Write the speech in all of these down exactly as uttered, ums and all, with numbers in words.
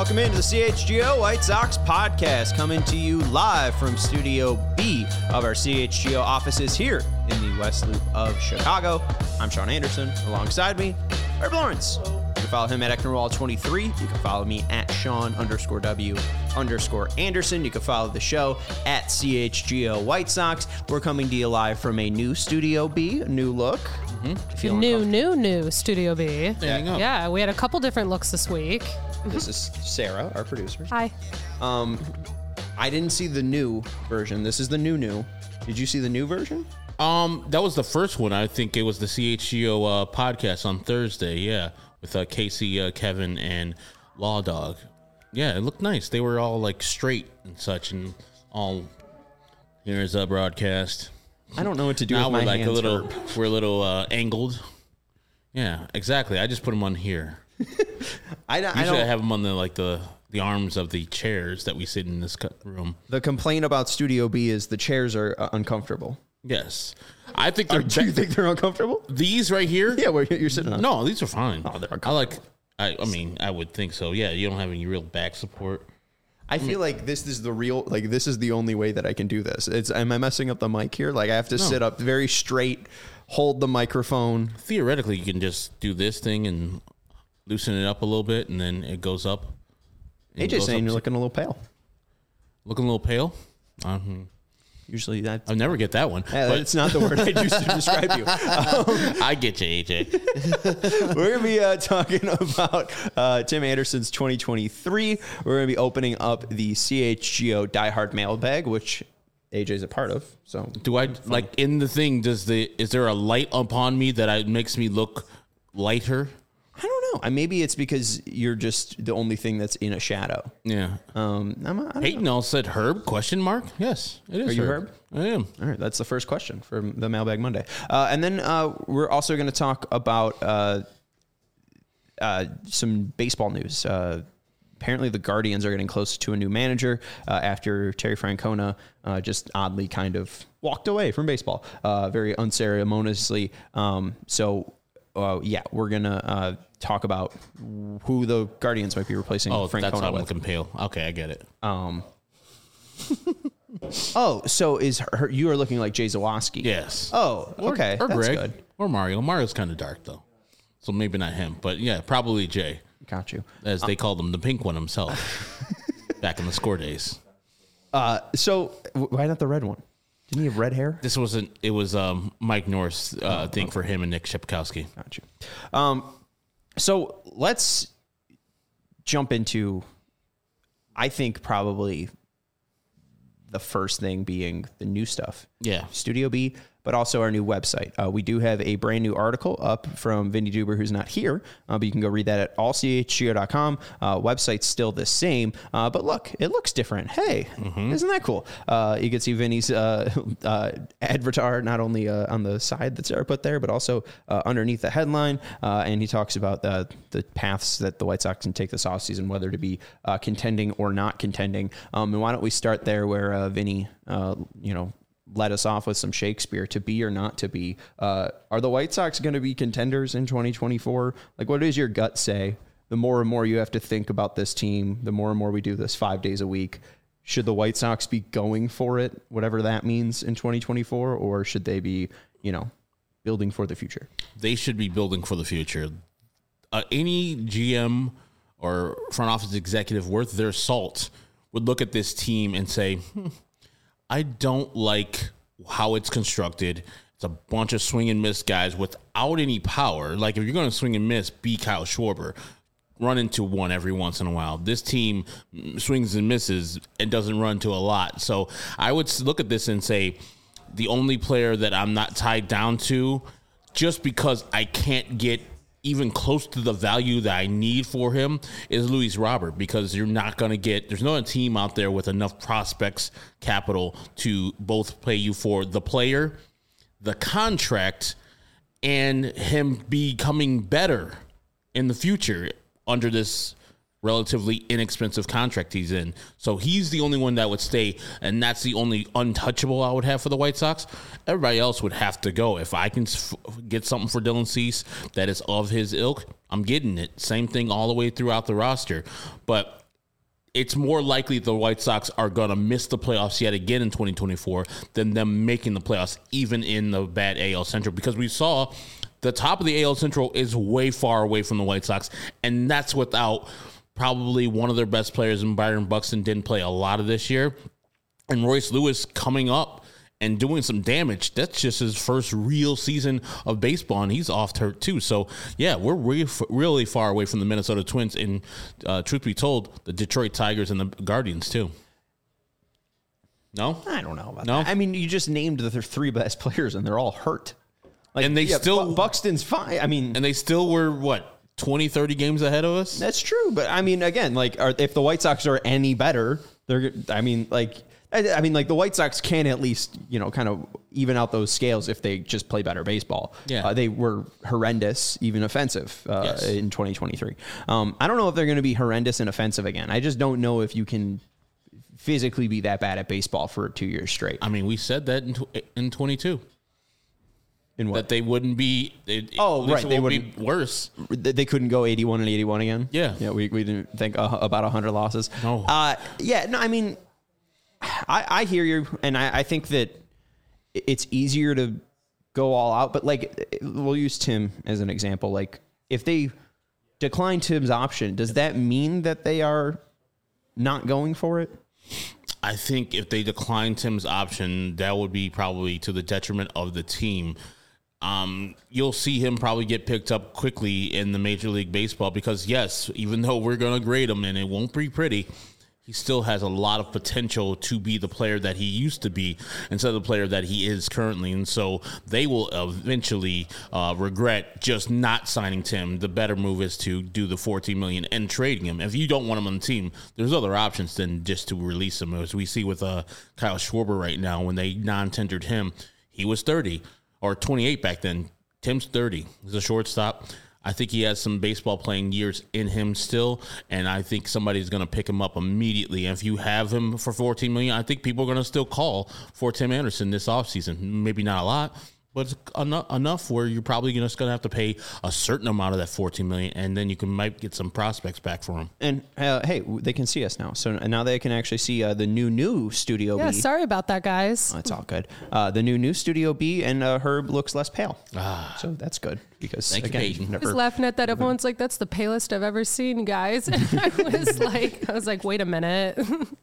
welcome into the C H G O White Sox podcast, coming to you live from Studio B of our C H G O offices here in the West Loop of Chicago. I'm Sean Anderson. Alongside me, Herb Lawrence. You can follow him at Ecknerwall twenty-three. You can follow me at Sean underscore W underscore Anderson. You can follow the show at C H G O White Sox. We're coming to you live from a new Studio B, a new look. Mm-hmm. New, new, new Studio B. There you go. Yeah, we had a couple different looks this week. This is Sarah, our producer. Hi. Um, I didn't see the new version. This is the new new. Did you see the new version? Um, that was the first one. I think it was the C H G O uh, podcast on Thursday. Yeah, with uh, Casey, uh, Kevin, and Law Dog. Yeah, it looked nice. They were all like straight and such, and all. Here's a broadcast. I don't know what to do now with we're my like hands. a little. Herb. We're a little uh, angled. Yeah, exactly. I just put them on here. I, I Usually don't I have them on the like the the arms of the chairs that we sit in this room. The complaint about Studio B is the chairs are uh, uncomfortable. Yes, I think they're. Or do you think they're uncomfortable? These right here? Yeah, where you're sitting on. No, these are fine. Oh, they're I like. I, I mean, I would think so. Yeah, you don't have any real back support. I feel like this is the real, like this is the only way that I can do this. It's, am I messing up the mic here? Like I have to No. sit up very straight, hold the microphone. Theoretically, you can just do this thing and loosen it up a little bit, and then it goes up. A J's saying you're looking a little pale. Looking a little pale? Um, Usually that. I never get that one. Yeah, but that's not the word I used to describe you. Um, I get you, A J. We're going to be uh, talking about uh, Tim Anderson's twenty twenty-three. We're going to be opening up the C H G O Die Hard mailbag, which A J's a part of. So, Do I, like, in the thing, does the is there a light upon me that I, makes me look lighter? I don't know. I Maybe it's because you're just the only thing that's in a shadow. Yeah. Um, I'm, I don't Peyton know. all said Herb, question mark? Yes, it is Are you Herb. Herb? I am. All right, that's the first question for the Mailbag Monday. Uh, and then uh, we're also going to talk about uh, uh, some baseball news. Uh, apparently, the Guardians are getting close to a new manager uh, after Terry Francona uh, just oddly kind of walked away from baseball, uh, very unceremoniously. Um, so, uh, yeah, we're going to uh, talk about who the Guardians might be replacing Oh, Francona that's why I'm with. looking pale. Okay, I get it. Um, oh, so is her, you are looking like Jay Zawoski? Yes. Oh, Or- okay. Or, That's Greg. good. Or Mario. Mario's kind of dark, though. So maybe not him. But yeah, probably Jay, Got you. as they called him, the pink one himself, back in the score days. Uh, so w- why not the red one? Didn't he have red hair? This wasn't, it was um, Mike North's uh, thing for him and Nick Shepkowski. Got you. Um, so let's jump into, I think probably the first thing being the new stuff. Yeah. Studio B, but also our new website. Uh, we do have a brand new article up from Vinny Duber, who's not here, uh, but you can go read that at all c h g o dot com. Uh, website's still the same, uh, but look, it looks different. Hey, Mm-hmm. isn't that cool? Uh, you can see Vinny's uh, uh, avatar not only uh, on the side that Sarah put there, but also uh, underneath the headline, uh, and he talks about the, the paths that the White Sox can take this offseason, whether to be uh, contending or not contending. Um, and why don't we start there where uh, Vinny, uh, you know, let us off with some Shakespeare. To be or not to be, uh, are the White Sox going to be contenders in twenty twenty-four? Like, what does your gut say? The more and more you have to think about this team, the more and more we do this five days a week. Should the White Sox be going for it, whatever that means in twenty twenty-four, or should they be, you know, building for the future? They should be building for the future. Uh, any G M or front office executive worth their salt would look at this team and say, hmm, I don't like how it's constructed. It's a bunch of swing and miss guys without any power. Like, if you're going to swing and miss, be Kyle Schwarber. Run into one every once in a while. This team swings and misses and doesn't run to a lot. So I would look at this and say, the only player that I'm not tied down to, just because I can't get even close to the value that I need for him, is Luis Robert, because you're not going to get, there's no team out there with enough prospects capital to both pay you for the player, the contract, and him becoming better in the future under this relatively inexpensive contract he's in. So he's the only one that would stay, and that's the only untouchable I would have for the White Sox. Everybody else would have to go. If I can f- get something for Dylan Cease that is of his ilk, I'm getting it. Same thing all the way throughout the roster. But it's more likely the White Sox are going to miss the playoffs yet again in twenty twenty-four than them making the playoffs, even in the bad A L Central, because we saw the top of the A L Central is way far away from the White Sox, and that's without probably one of their best players, and Byron Buxton didn't play a lot of this year, and Royce Lewis coming up and doing some damage. That's just his first real season of baseball, and he's off hurt too. So, yeah, we're re- really far away from the Minnesota Twins, and uh, truth be told, the Detroit Tigers and the Guardians too. No? I don't know about no? that. I mean, you just named the three best players, and they're all hurt. Like, and they yeah, still... Bu- Buxton's fine. I mean... And they still were, what, twenty, thirty games ahead of us? That's true, but, I mean, again, like, are, if the White Sox are any better, they're... I mean, like... I mean, like, the White Sox can at least, you know, kind of even out those scales if they just play better baseball. Yeah. Uh, they were horrendous, even offensive uh, yes. in twenty twenty-three. Um, I don't know if they're going to be horrendous and offensive again. I just don't know if you can physically be that bad at baseball for two years straight. I mean, we said that in, tw- in twenty-two. In what? That they wouldn't be... It, oh, right. They wouldn't be worse. They couldn't go eighty-one and eighty-one again? Yeah. Yeah, we, we didn't think uh, about one hundred losses. No. Uh, yeah, no, I mean... I, I hear you, and I, I think that it's easier to go all out. But, like, we'll use Tim as an example. Like, if they decline Tim's option, does that mean that they are not going for it? I think if they decline Tim's option, that would be probably to the detriment of the team. Um, you'll see him probably get picked up quickly in the Major League Baseball because, yes, even though we're going to grade him and it won't be pretty, he still has a lot of potential to be the player that he used to be instead of the player that he is currently. And so they will eventually uh, regret just not signing Tim. The better move is to do the fourteen million dollars and trading him. If you don't want him on the team, there's other options than just to release him. As we see with uh, Kyle Schwarber right now, when they non-tendered him, he was thirty or twenty-eight back then. Tim's thirty. He's a shortstop. I think he has some baseball playing years in him still, and I think somebody's going to pick him up immediately. And if you have him for fourteen million dollars, I think people are going to still call for Tim Anderson this offseason. Maybe not a lot, but it's enough, enough where you're probably just going to have to pay a certain amount of that fourteen million dollars, and then you can might get some prospects back for him. And uh, hey, they can see us now, so now they can actually see uh, the new new Studio Yeah, B. sorry about that, guys. Oh, it's all good. Uh, the new new Studio B, and uh, Herb looks less pale, Ah. so that's good because Thank you, again, Peyton. you've I was never, laughing at that. Everyone's like, "That's the palest I've ever seen, guys." And I was like, "I was like, wait a minute."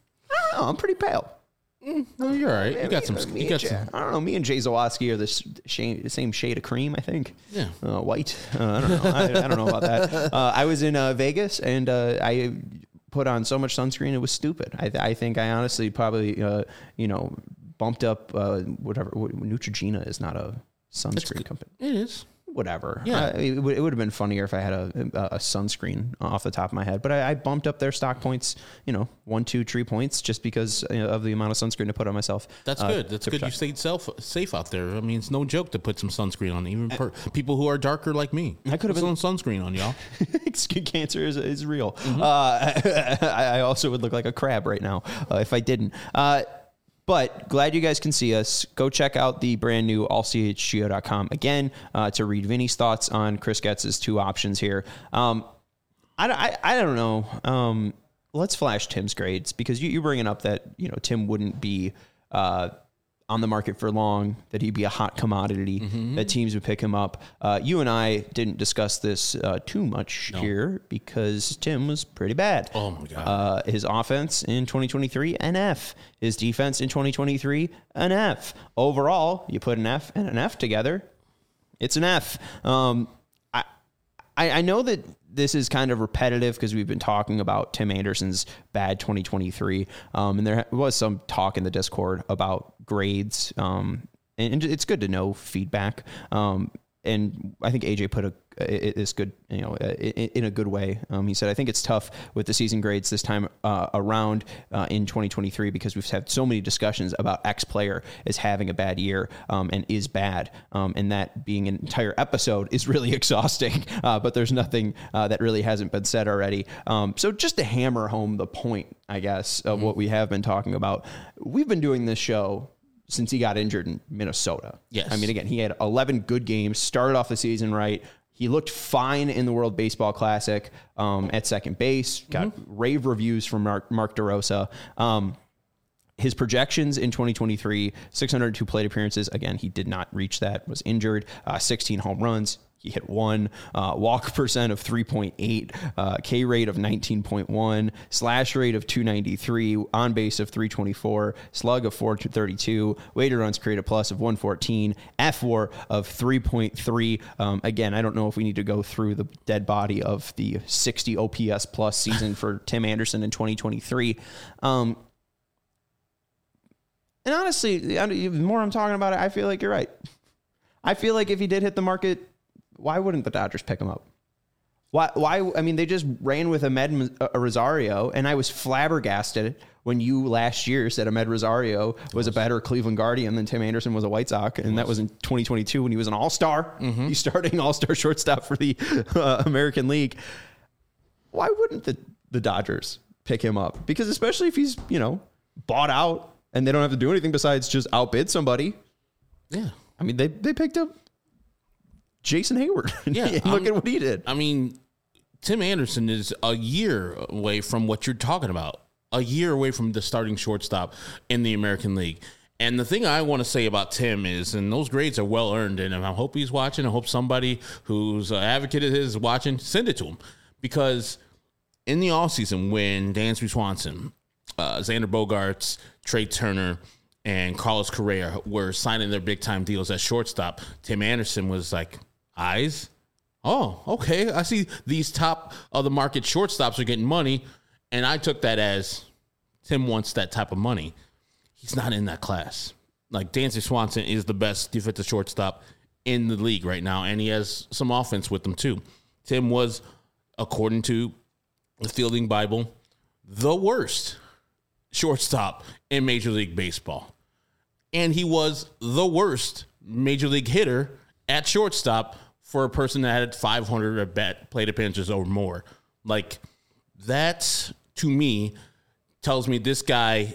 oh, I'm pretty pale. No, you're all right. You got some. Me You and got Jay, some. I don't know. Me and Jay Zawatsky are the s- shade, the same shade of cream, I think. Yeah. Uh, white. Uh, I don't know. I, I don't know about that. Uh, I was in uh, Vegas and uh, I put on so much sunscreen it was stupid. I, I think I honestly probably uh, you know bumped up uh, whatever. Neutrogena is not a sunscreen company. It is. Whatever. Yeah. Uh, it, would, it would have been funnier if I had a, a, a sunscreen off the top of my head, but I, I bumped up their stock points, you know, one, two, three points just because you know, of the amount of sunscreen to put on myself. That's uh, good. That's to good. You protect. stayed self, safe out there. I mean, it's no joke to put some sunscreen on, even per, people who are darker like me. I could have put been some sunscreen on, y'all. Skin cancer is, is real. Mm-hmm. Uh, I, I also would look like a crab right now uh, if I didn't. Uh, But glad you guys can see us. Go check out the brand new all c h g o dot com again uh, to read Vinny's thoughts on Chris Getz's two options here. Um, I, I, I don't know. Um, let's flash Tim's grades because you, you're bringing up that you know Tim wouldn't be uh, on the market for long, that he'd be a hot commodity, mm-hmm. that teams would pick him up. Uh, you and I didn't discuss this uh, too much no. here because Tim was pretty bad. Oh, my God. Uh, his offense in twenty twenty-three, an F. His defense in twenty twenty-three, an F. Overall, you put an F and an F together, it's an F. Um, I, I I know that this is kind of repetitive because we've been talking about Tim Anderson's bad twenty twenty-three, um, and there was some talk in the Discord about grades, um, and, and it's good to know feedback. Um, and I think A J put a is good, you know, in a good way. Um, he said, I think it's tough with the season grades this time uh, around uh, in twenty twenty-three because we've had so many discussions about X player is having a bad year um, and is bad. Um, and that being an entire episode is really exhausting, uh, but there's nothing uh, that really hasn't been said already. Um, so just to hammer home the point, I guess, of mm-hmm. what we have been talking about, we've been doing this show since he got injured in Minnesota. Yes. I mean, again, he had eleven good games, started off the season right. He looked fine in the World Baseball Classic um, at second base. Got mm-hmm. rave reviews from Mark, Mark DeRosa. Um, his projections in twenty twenty-three, six hundred two plate appearances. Again, he did not reach that, was injured. Uh, sixteen home runs. He hit one, uh, walk percent of three point eight, uh, K rate of nineteen point one, slash rate of two ninety-three, on base of three twenty-four, slug of four thirty-two, weighted runs created plus of one fourteen, F W A R of three point three. Um, again, I don't know if we need to go through the dead body of the sixty O P S plus season for Tim Anderson in twenty twenty-three. Um, and honestly, the more I'm talking about it, I feel like you're right. I feel like if he did hit the market, why wouldn't the Dodgers pick him up? Why? Why? I mean, they just ran with Ahmed Rosario, and I was flabbergasted when you last year said Ahmed Rosario was a better Cleveland Guardian than Tim Anderson was a White Sox, and that was in twenty twenty-two when he was an All-Star. Mm-hmm. He's starting All-Star shortstop for the uh, American League. Why wouldn't the, the Dodgers pick him up? Because especially if he's, you know, bought out and they don't have to do anything besides just outbid somebody. Yeah. I mean, they, they picked up Jason Hayward. Yeah, and look at what he did. I mean, Tim Anderson is a year away from what you're talking about. A year away from the starting shortstop in the American League. And the thing I want to say about Tim is, and those grades are well earned, and I hope he's watching. I hope somebody who's an advocate of his is watching, send it to him. Because in the offseason, when Dansby Swanson, uh, Xander Bogaerts, Trey Turner, and Carlos Correa were signing their big-time deals at shortstop, Tim Anderson was like, eyes? Oh, okay. I see these top of the market shortstops are getting money, and I took that as Tim wants that type of money. He's not in that class. Like, Dansby Swanson is the best defensive shortstop in the league right now, and he has some offense with him too. Tim was, according to the Fielding Bible, the worst shortstop in Major League Baseball. And he was the worst Major League hitter at shortstop for a person that had five hundred at bat plate appearances or more. Like, that, to me, tells me this guy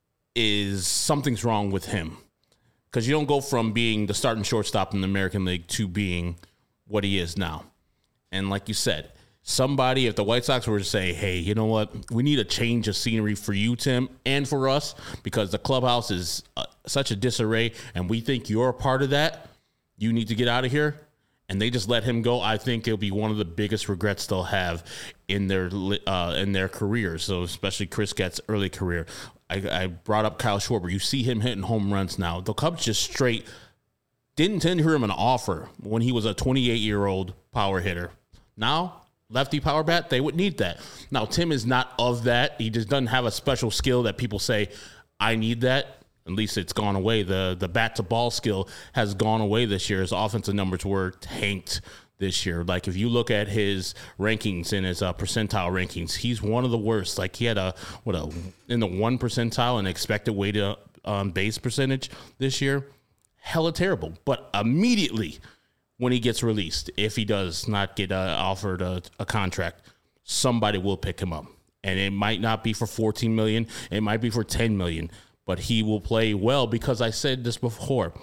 is, something's wrong with him. Because you don't go from being the starting shortstop in the American League to being what he is now. And like you said, somebody, if the White Sox were to say, hey, you know what, we need a change of scenery for you, Tim, and for us, because the clubhouse is uh, such a disarray, and we think you're a part of that, you need to get out of here, and they just let him go, I think it'll be one of the biggest regrets they'll have in their uh, in their career. So especially Chris Getz's early career. I, I brought up Kyle Schwarber. You see him hitting home runs now. The Cubs just straight didn't tender him an offer when he was a twenty-eight-year-old power hitter. Now, lefty power bat, they would need that. Now, Tim is not of that. He just doesn't have a special skill that people say, I need that. At least it's gone away. The the bat-to-ball skill has gone away this year. His offensive numbers were tanked this year. Like, if you look at his rankings and his uh, percentile rankings, he's one of the worst. Like, he had a, what, a in the one percentile in expected weighted on base percentage this year. Hella terrible. But immediately when he gets released, if he does not get uh, offered a, a contract, somebody will pick him up. And it might not be for fourteen million dollars. It might be for ten million dollars. But he will play well, because I said this before.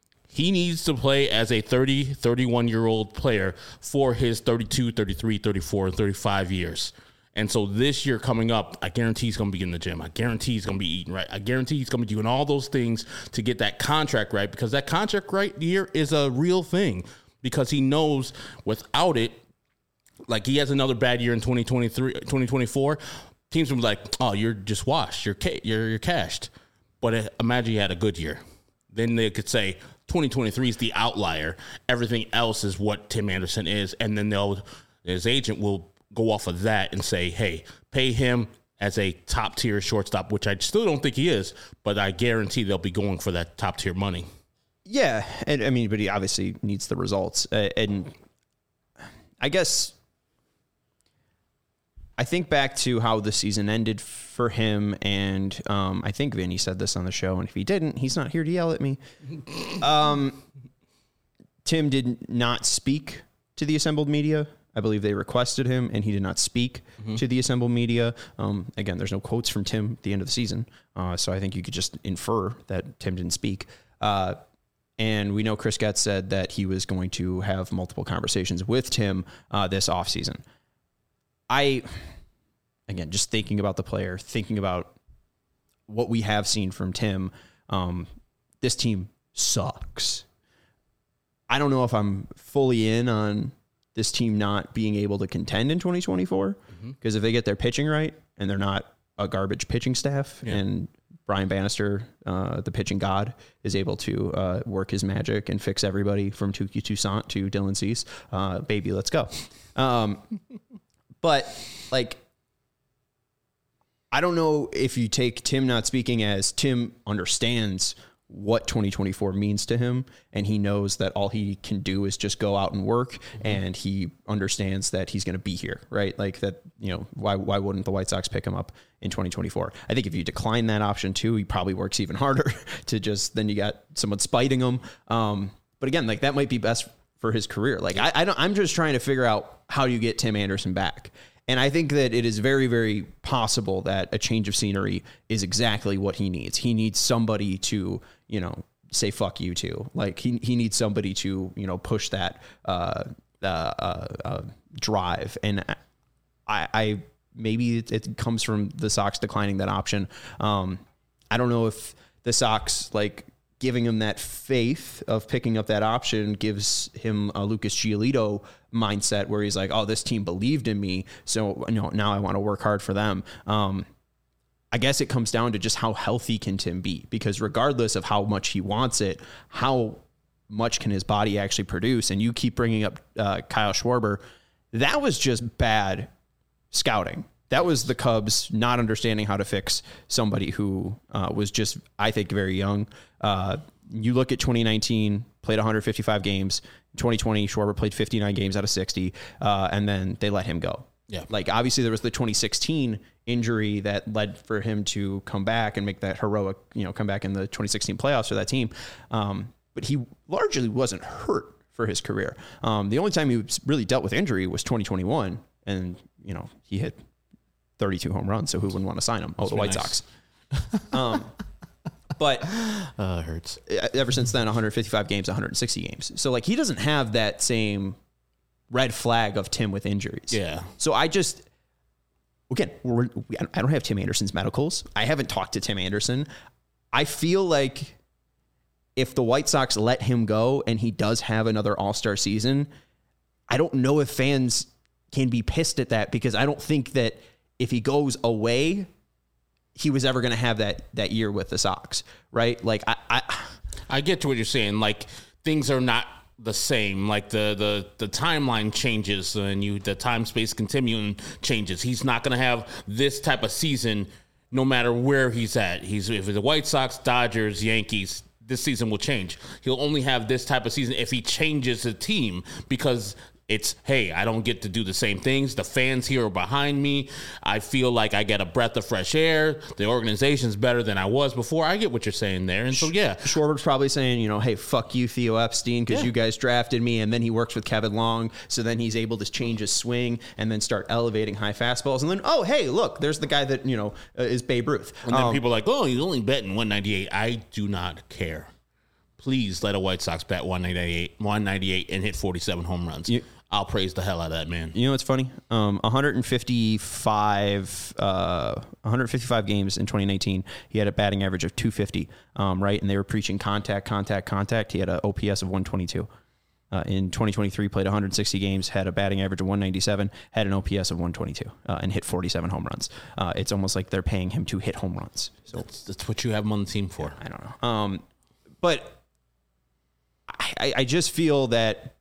He needs to play as a thirty, thirty-one-year-old player for his thirty-two, thirty-three, thirty-four, and thirty-five years. And so this year coming up, I guarantee he's going to be in the gym. I guarantee he's going to be eating right. I guarantee he's going to be doing all those things to get that contract right, because that contract right here is a real thing, because he knows without it, like, he has another bad year in twenty twenty-three, twenty twenty-four, teams will be like, oh, you're just washed. You're, ca- you're, you're cashed. But imagine you had a good year. Then they could say twenty twenty-three is the outlier. Everything else is what Tim Anderson is. And then they'll, his agent will go off of that and say, hey, pay him as a top-tier shortstop, which I still don't think he is, but I guarantee they'll be going for that top-tier money. Yeah, and I mean, but he obviously needs the results. Uh, and I guess I think back to how the season ended for him, and um, I think Vinny said this on the show, and if he didn't, he's not here to yell at me. Um, Tim did not speak to the assembled media. I believe they requested him, and he did not speak mm-hmm. to the assembled media. Um, again, there's no quotes from Tim at the end of the season, uh, so I think you could just infer that Tim didn't speak. Uh, And we know Chris Getz said that he was going to have multiple conversations with Tim uh, this offseason. I, again, just thinking about the player, thinking about what we have seen from Tim, um, this team sucks. I don't know if I'm fully in on this team not being able to contend in twenty twenty-four, because mm-hmm. if they get their pitching right and they're not a garbage pitching staff, yeah. and Brian Bannister, uh, the pitching god, is able to uh, work his magic and fix everybody from Touki Toussaint to Dylan Cease, uh, baby, let's go. Um, but like, I don't know if you take Tim not speaking as Tim understands what twenty twenty-four means to him, and he knows that all he can do is just go out and work, mm-hmm. and he understands that he's going to be here, right? Like that, you know, why why wouldn't the White Sox pick him up in twenty twenty-four? I think if you decline that option too, he probably works even harder to just, then you got someone spiting him. Um, but again, like that might be best for his career. Like I, I don't, I'm just trying to figure out how you get Tim Anderson back. And I think that it is very, very possible that a change of scenery is exactly what he needs. He needs somebody to, you know, say fuck you to. Like he he needs somebody to, you know, push that uh, uh, uh, uh, drive. And I, I maybe it, it comes from the Sox declining that option. Um, I don't know if the Sox like giving him that faith of picking up that option gives him a Lucas Giolito mindset where he's like, oh, this team believed in me, so you know, now I want to work hard for them. Um, I guess it comes down to just how healthy can Tim be, because regardless of how much he wants it, how much can his body actually produce? And you keep bringing up uh, Kyle Schwarber. That was just bad scouting. That was the Cubs not understanding how to fix somebody who uh, was just, I think, very young. Uh, you look at twenty nineteen, played one hundred fifty-five games. twenty twenty, Schwarber played fifty-nine games out of sixty, uh, and then they let him go. Yeah. Like, obviously, there was the twenty sixteen injury that led for him to come back and make that heroic, you know, come back in the twenty sixteen playoffs for that team. Um, but he largely wasn't hurt for his career. Um, the only time he really dealt with injury was twenty twenty-one, and, you know, he hit thirty-two home runs, so who wouldn't want to sign him? Oh, the White nice. Sox. um, but uh, it hurts. Ever since then, one hundred fifty-five games, one hundred sixty games. So, like, he doesn't have that same red flag of Tim with injuries. Yeah. So I just, again, we're, I don't have Tim Anderson's medicals. I haven't talked to Tim Anderson. I feel like if the White Sox let him go and he does have another all-star season, I don't know if fans can be pissed at that, because I don't think that if he goes away, he was ever going to have that that year with the Sox, right? Like, I, I, I get to what you're saying. Like, things are not the same. Like the the the timeline changes, and you the time space continuum changes. He's not going to have this type of season, no matter where he's at. He's if it's the White Sox, Dodgers, Yankees. This season will change. He'll only have this type of season if he changes the team, because it's, hey, I don't get to do the same things. The fans here are behind me. I feel like I get a breath of fresh air. The organization's better than I was before. I get what you're saying there. And so, yeah. Schwarber's probably saying, you know, hey, fuck you, Theo Epstein, because yeah. you guys drafted me. And then he works with Kevin Long. So then he's able to change his swing and then start elevating high fastballs. And then, oh, hey, look, there's the guy that, you know, uh, is Babe Ruth. And then um, people are like, oh, he's only betting one ninety-eight. I do not care. Please let a White Sox bat one ninety-eight, one ninety-eight and hit forty-seven home runs. You, I'll praise the hell out of that, man. You know what's funny? Um, one hundred fifty-five, uh, one hundred fifty-five games in twenty nineteen. He had a batting average of two fifty, um, right? And they were preaching contact, contact, contact. He had an O P S of one twenty-two. Uh, in twenty twenty-three, played one hundred sixty games, had a batting average of one ninety-seven, had an O P S of one twenty-two, uh, and hit forty-seven home runs. Uh, it's almost like they're paying him to hit home runs. So that's, that's what you have him on the team for. I don't know. Um, but I, I just feel that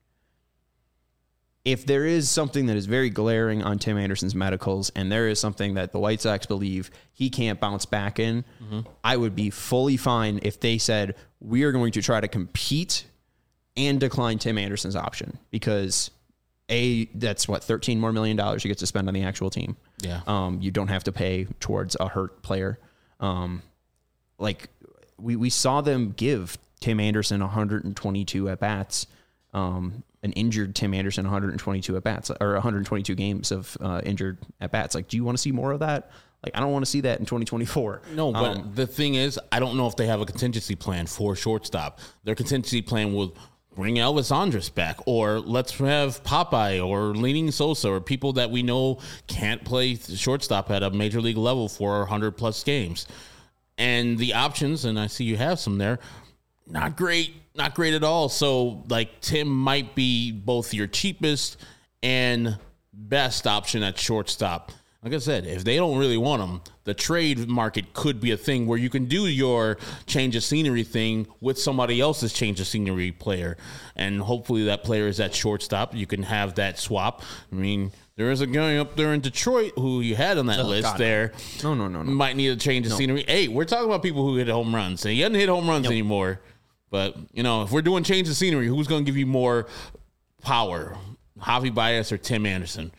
if there is something that is very glaring on Tim Anderson's medicals, and there is something that the White Sox believe he can't bounce back in, mm-hmm. I would be fully fine if they said, we are going to try to compete and decline Tim Anderson's option, because A, that's what, thirteen more million dollars you get to spend on the actual team. Yeah. Um, you don't have to pay towards a hurt player. Um, like we, we saw them give Tim Anderson one hundred twenty-two at bats um, an injured Tim Anderson one hundred twenty-two at bats or one hundred twenty-two games of uh, injured at bats. Like, do you want to see more of that? Like, I don't want to see that in twenty twenty-four. No, but um, the thing is, I don't know if they have a contingency plan for shortstop. Their contingency plan will bring Elvis Andrus back, or let's have Popeye or Leaning Sosa, or people that we know can't play shortstop at a major league level for one hundred plus games. And the options, and I see you have some there, not great, not great at all. So, like, Tim might be both your cheapest and best option at shortstop. Like I said, if they don't really want him, the trade market could be a thing where you can do your change of scenery thing with somebody else's change of scenery player. And hopefully that player is at shortstop. You can have that swap. I mean, there is a guy up there in Detroit who you had on that oh, list God. there. No, no, no, no. Might need a change of no. scenery. Hey, we're talking about people who hit home runs. And he doesn't hit home runs nope. anymore. But, you know, if we're doing change of scenery, who's going to give you more power? Javi Baez or Tim Anderson?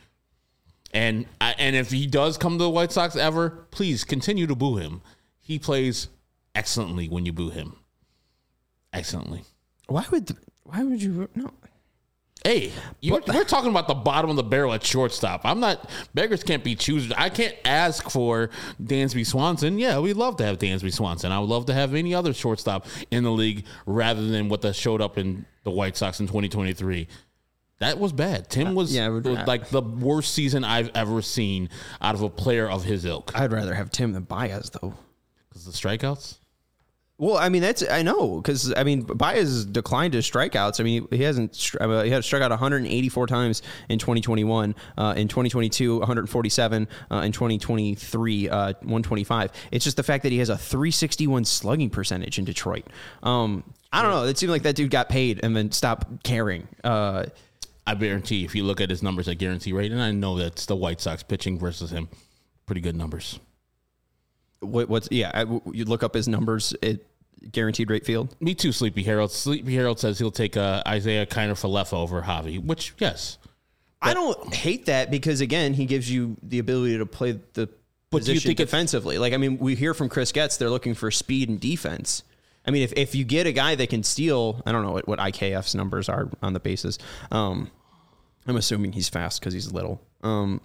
And I, and if he does come to the White Sox ever, please continue to boo him. He plays excellently when you boo him. Excellently. Why would why would you no? Hey, you're, we're talking about the bottom of the barrel at shortstop. I'm not. Beggars can't be choosers. I can't ask for Dansby Swanson. Yeah, we'd love to have Dansby Swanson. I would love to have any other shortstop in the league rather than what that showed up in the White Sox in twenty twenty-three. That was bad. Tim was, yeah, was like the worst season I've ever seen out of a player of his ilk. I'd rather have Tim than Baez, though. Because the strikeouts? Well, I mean, that's I know. Because, I mean, Baez declined his strikeouts. I mean, he hasn't, he had struck out one hundred eighty-four times in twenty twenty-one. Uh, in twenty twenty-two, one hundred forty-seven. Uh, in twenty twenty-three, uh, one twenty-five. It's just the fact that he has a three sixty-one slugging percentage in Detroit. Um, I don't know. It seemed like that dude got paid and then stopped caring. Uh I guarantee if you look at his numbers at guarantee rate, and I know that's the White Sox pitching versus him, pretty good numbers. What, what's yeah? I, you look up his numbers at guaranteed rate field. Me too, Sleepy Harold. Sleepy Harold says he'll take uh, Isaiah Kiner Falefa over Javi, which yes, I don't hate that because again, he gives you the ability to play the but position do you think defensively. Like I mean, we hear from Chris Getz, they're looking for speed and defense. I mean, if, if you get a guy that can steal, I don't know what, what I K F's numbers are on the bases. Um, I'm assuming he's fast because he's little. Um,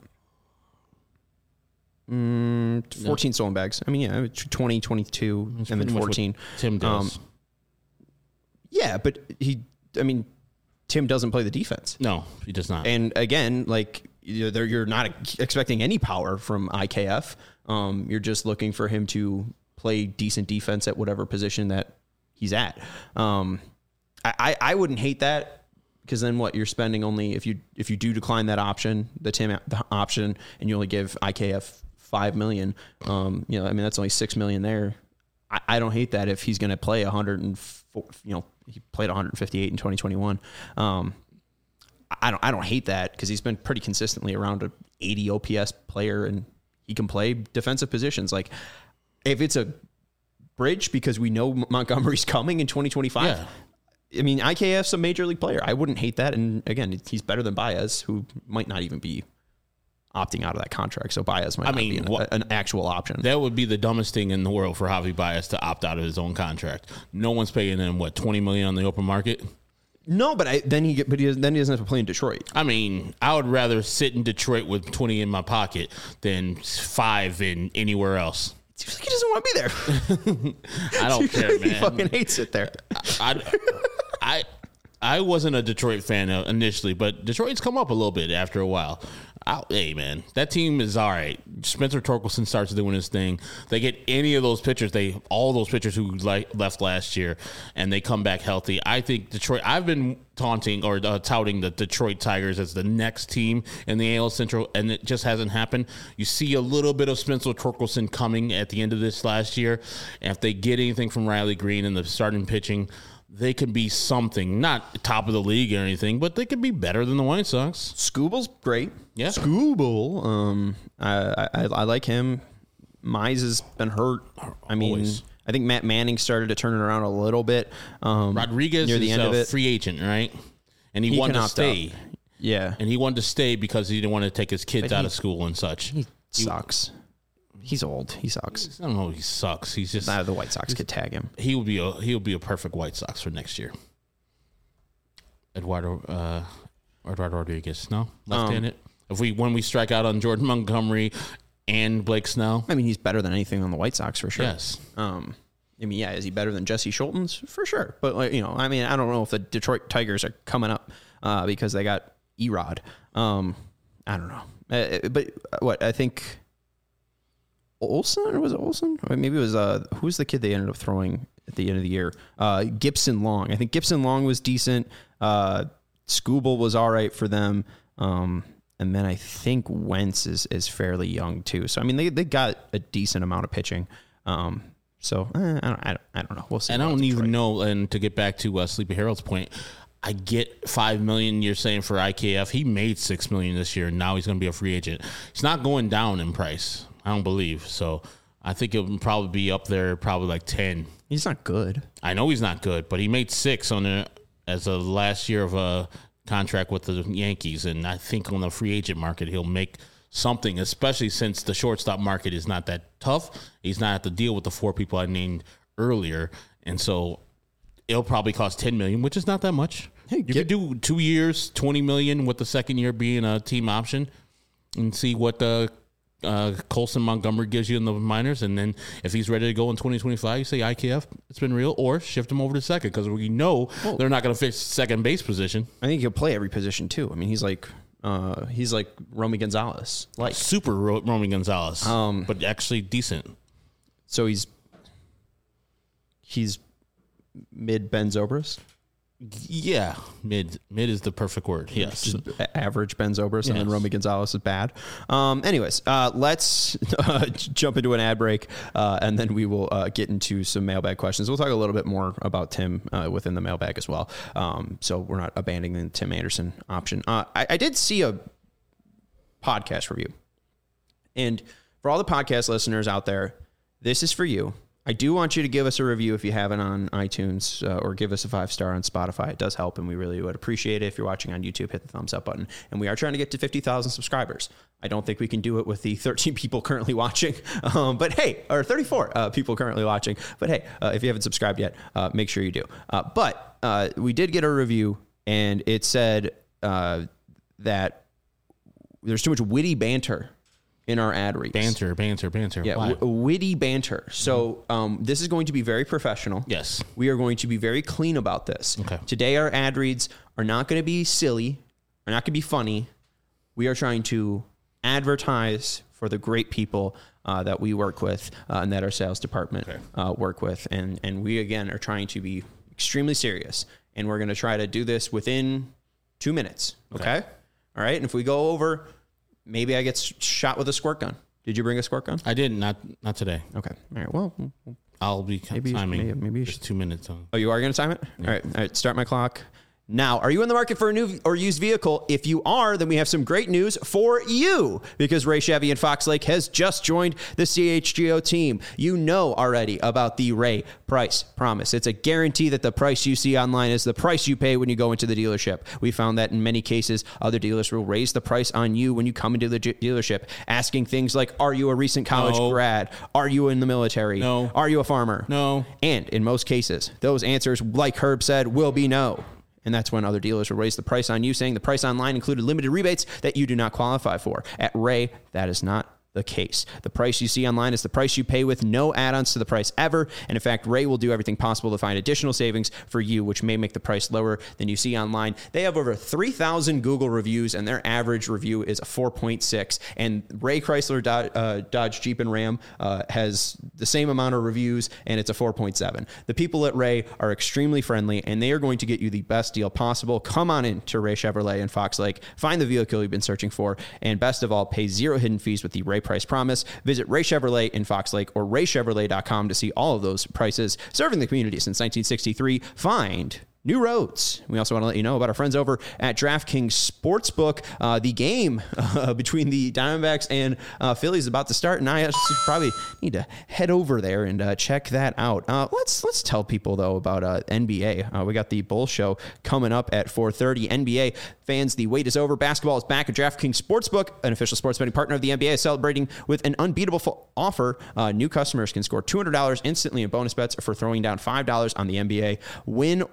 mm, fourteen no. stolen bags. I mean, yeah, twenty, twenty-two, That's and then fourteen. Tim does. Um, yeah, but he, I mean, Tim doesn't play the defense. No, he does not. And again, like, you're, you're not expecting any power from I K F. Um, you're just looking for him to play decent defense at whatever position that he's at. Um, I, I, I wouldn't hate that because then what you're spending only if you if you do decline that option, the Tim the option, and you only give I K F five million. Um, you know, I mean that's only six million there. I, I don't hate that if he's going to play a hundred and four, you know he played one hundred fifty-eight in twenty twenty-one. Um, I don't I don't hate that because he's been pretty consistently around a eighty O P S player and he can play defensive positions like. If it's a bridge because we know Montgomery's coming in twenty twenty-five, yeah. I mean, I K F's a major league player. I wouldn't hate that. And again, he's better than Baez, who might not even be opting out of that contract. So Baez might I not mean, be an, what, an actual option. That would be the dumbest thing in the world for Javi Baez to opt out of his own contract. No one's paying him, what, twenty million dollars on the open market? No, but I, then he get, but he, then he doesn't have to play in Detroit. I mean, I would rather sit in Detroit with twenty in my pocket than five in anywhere else. Seems like he doesn't want to be there. I don't care, man. He fucking hates it there. I, I, I wasn't a Detroit fan initially, but Detroit's come up a little bit after a while. I, hey, man, that team is all right. Spencer Torkelson starts doing his thing. They get any of those pitchers, they all those pitchers who like, left last year, and they come back healthy. I think Detroit. I've been taunting or uh, touting the Detroit Tigers as the next team in the A L Central, and it just hasn't happened. You see a little bit of Spencer Torkelson coming at the end of this last year, and if they get anything from Riley Green in the starting pitching, they could be something, not top of the league or anything, but they could be better than the White Sox. Skubal's great. Yeah. Skubal. Um, I, I, I like him. Mize has been hurt. I mean, Always. I think Matt Manning started to turn it around a little bit. Um, Rodriguez near the is end a of it. free agent, right? And he, he wanted to stay. Up. Yeah. And he wanted to stay because he didn't want to take his kids but out he, of school and such. He sucks. He's old. He sucks. I don't know. He sucks. He's just not the White Sox could tag him. He would be a he would be a perfect White Sox for next year. Eduardo uh, Eduardo Rodriguez. No, left-handed. Um, if we when we strike out on Jordan Montgomery and Blake Snell, I mean, he's better than anything on the White Sox for sure. Yes. Um, I mean, yeah, is he better than Jesse Schultens? For sure. But, like, you know, I mean, I don't know if the Detroit Tigers are coming up uh, because they got Erod. Um, I don't know. Uh, but what, I think Olsen, or was it Olsen? Or maybe it was, uh, who was the kid they ended up throwing at the end of the year? Uh, Gibson Long. I think Gibson Long was decent. Uh, Skubal was all right for them. Um, and then I think Wentz is, is fairly young too. So, I mean, they, they got a decent amount of pitching. Um, So eh, I, don't, I don't. I don't know. We'll see. And I don't even know. And to get back to uh, Sleepy Harold's point, I get five million. You're saying for I K F, he made six million this year, and now he's going to be a free agent. He's not going down in price. I don't believe so. I think it would probably be up there, probably like ten. He's not good. I know he's not good, but he made six on it as a last year of a contract with the Yankees, and I think on the free agent market he'll make something, especially since the shortstop market is not that tough. He's not have to deal with the four people I named earlier, and so it'll probably cost ten million dollars, which is not that much. Hey, you get, could do two years, twenty million dollars, with the second year being a team option, and see what the uh, Colson Montgomery gives you in the minors, and then if he's ready to go in twenty twenty-five, you say I K F, it's been real, or shift him over to second, because we know well, they're not going to fix second base position. I think he'll play every position too. I mean, he's like. Uh, he's like Romy Gonzalez, like super Ro- Romy Gonzalez, um, but actually decent. So he's he's mid Ben Zobrist. Yeah, mid mid is the perfect word. Yes, just average Ben Zobrist, yes. And then Romy Gonzalez is bad. Um, anyways, uh, let's uh, jump into an ad break, uh, and then we will uh, get into some mailbag questions. We'll talk a little bit more about Tim uh, within the mailbag as well. Um, so we're not abandoning the Tim Anderson option. Uh, I, I did see a podcast review, and for all the podcast listeners out there, this is for you. I do want you to give us a review if you haven't on iTunes, uh, or give us a five star on Spotify. It does help, and we really would appreciate it. If you're watching on YouTube, hit the thumbs up button. And we are trying to get to fifty thousand subscribers. I don't think we can do it with the thirteen people currently watching, um, but hey, or thirty-four uh, people currently watching. But hey, uh, if you haven't subscribed yet, uh, make sure you do. Uh, but uh, we did get a review, and it said uh, that there's too much witty banter in our ad reads. Banter, banter, banter. Yeah, w- witty banter. So um, this is going to be very professional. Yes. We are going to be very clean about this. Okay. Today, our ad reads are not going to be silly, are not going to be funny. We are trying to advertise for the great people uh, that we work with uh, and that our sales department okay. uh, work with. And, and we, again, are trying to be extremely serious. And we're going to try to do this within two minutes. Okay? okay? All right? And if we go over... Maybe I get shot with a squirt gun. Did you bring a squirt gun? I didn't. Not not today. Okay. All right. Well, I'll be maybe timing. You should, maybe, maybe you just should. two minutes. On. Oh, you are going to time it? Yeah. All right. All right. Start my clock. Now, are you in the market for a new or used vehicle? If you are, then we have some great news for you, because Ray Chevy in Fox Lake has just joined the C H G O team. You know already about the Ray Price Promise. It's a guarantee that the price you see online is the price you pay when you go into the dealership. We found that in many cases, other dealers will raise the price on you when you come into the dealership, asking things like, are you a recent college no. grad? Are you in the military? No. Are you a farmer? No. And in most cases, those answers, like Herb said, will be no. And that's when other dealers will raise the price on you, saying the price online included limited rebates that you do not qualify for. At Ray, that is not the case. The price you see online is the price you pay with no add-ons to the price ever. And in fact, Ray will do everything possible to find additional savings for you, which may make the price lower than you see online. They have over three thousand Google reviews, and their average review is a four point six. And Ray Chrysler Dodge, uh, Dodge Jeep and Ram uh, has the same amount of reviews, and it's a four point seven. The people at Ray are extremely friendly, and they are going to get you the best deal possible. Come on in to Ray Chevrolet in Fox Lake, find the vehicle you've been searching for, and best of all, pay zero hidden fees with the Ray Price Promise. Visit Ray Chevrolet in Fox Lake or ray chevrolet dot com to see all of those prices. Serving the community since nineteen sixty-three. Find new roads. We also want to let you know about our friends over at DraftKings Sportsbook. Uh, the game uh, between the Diamondbacks and uh, Phillies is about to start, and I actually probably need to head over there and uh, check that out. Uh, let's let's tell people though about uh, N B A. Uh, we got the Bull Show coming up at four thirty. N B A fans, the wait is over. Basketball is back at DraftKings Sportsbook, an official sports betting partner of the N B A, celebrating with an unbeatable full offer. Uh, new customers can score two hundred dollars instantly in bonus bets for throwing down five dollars on the N B A. Win or lose,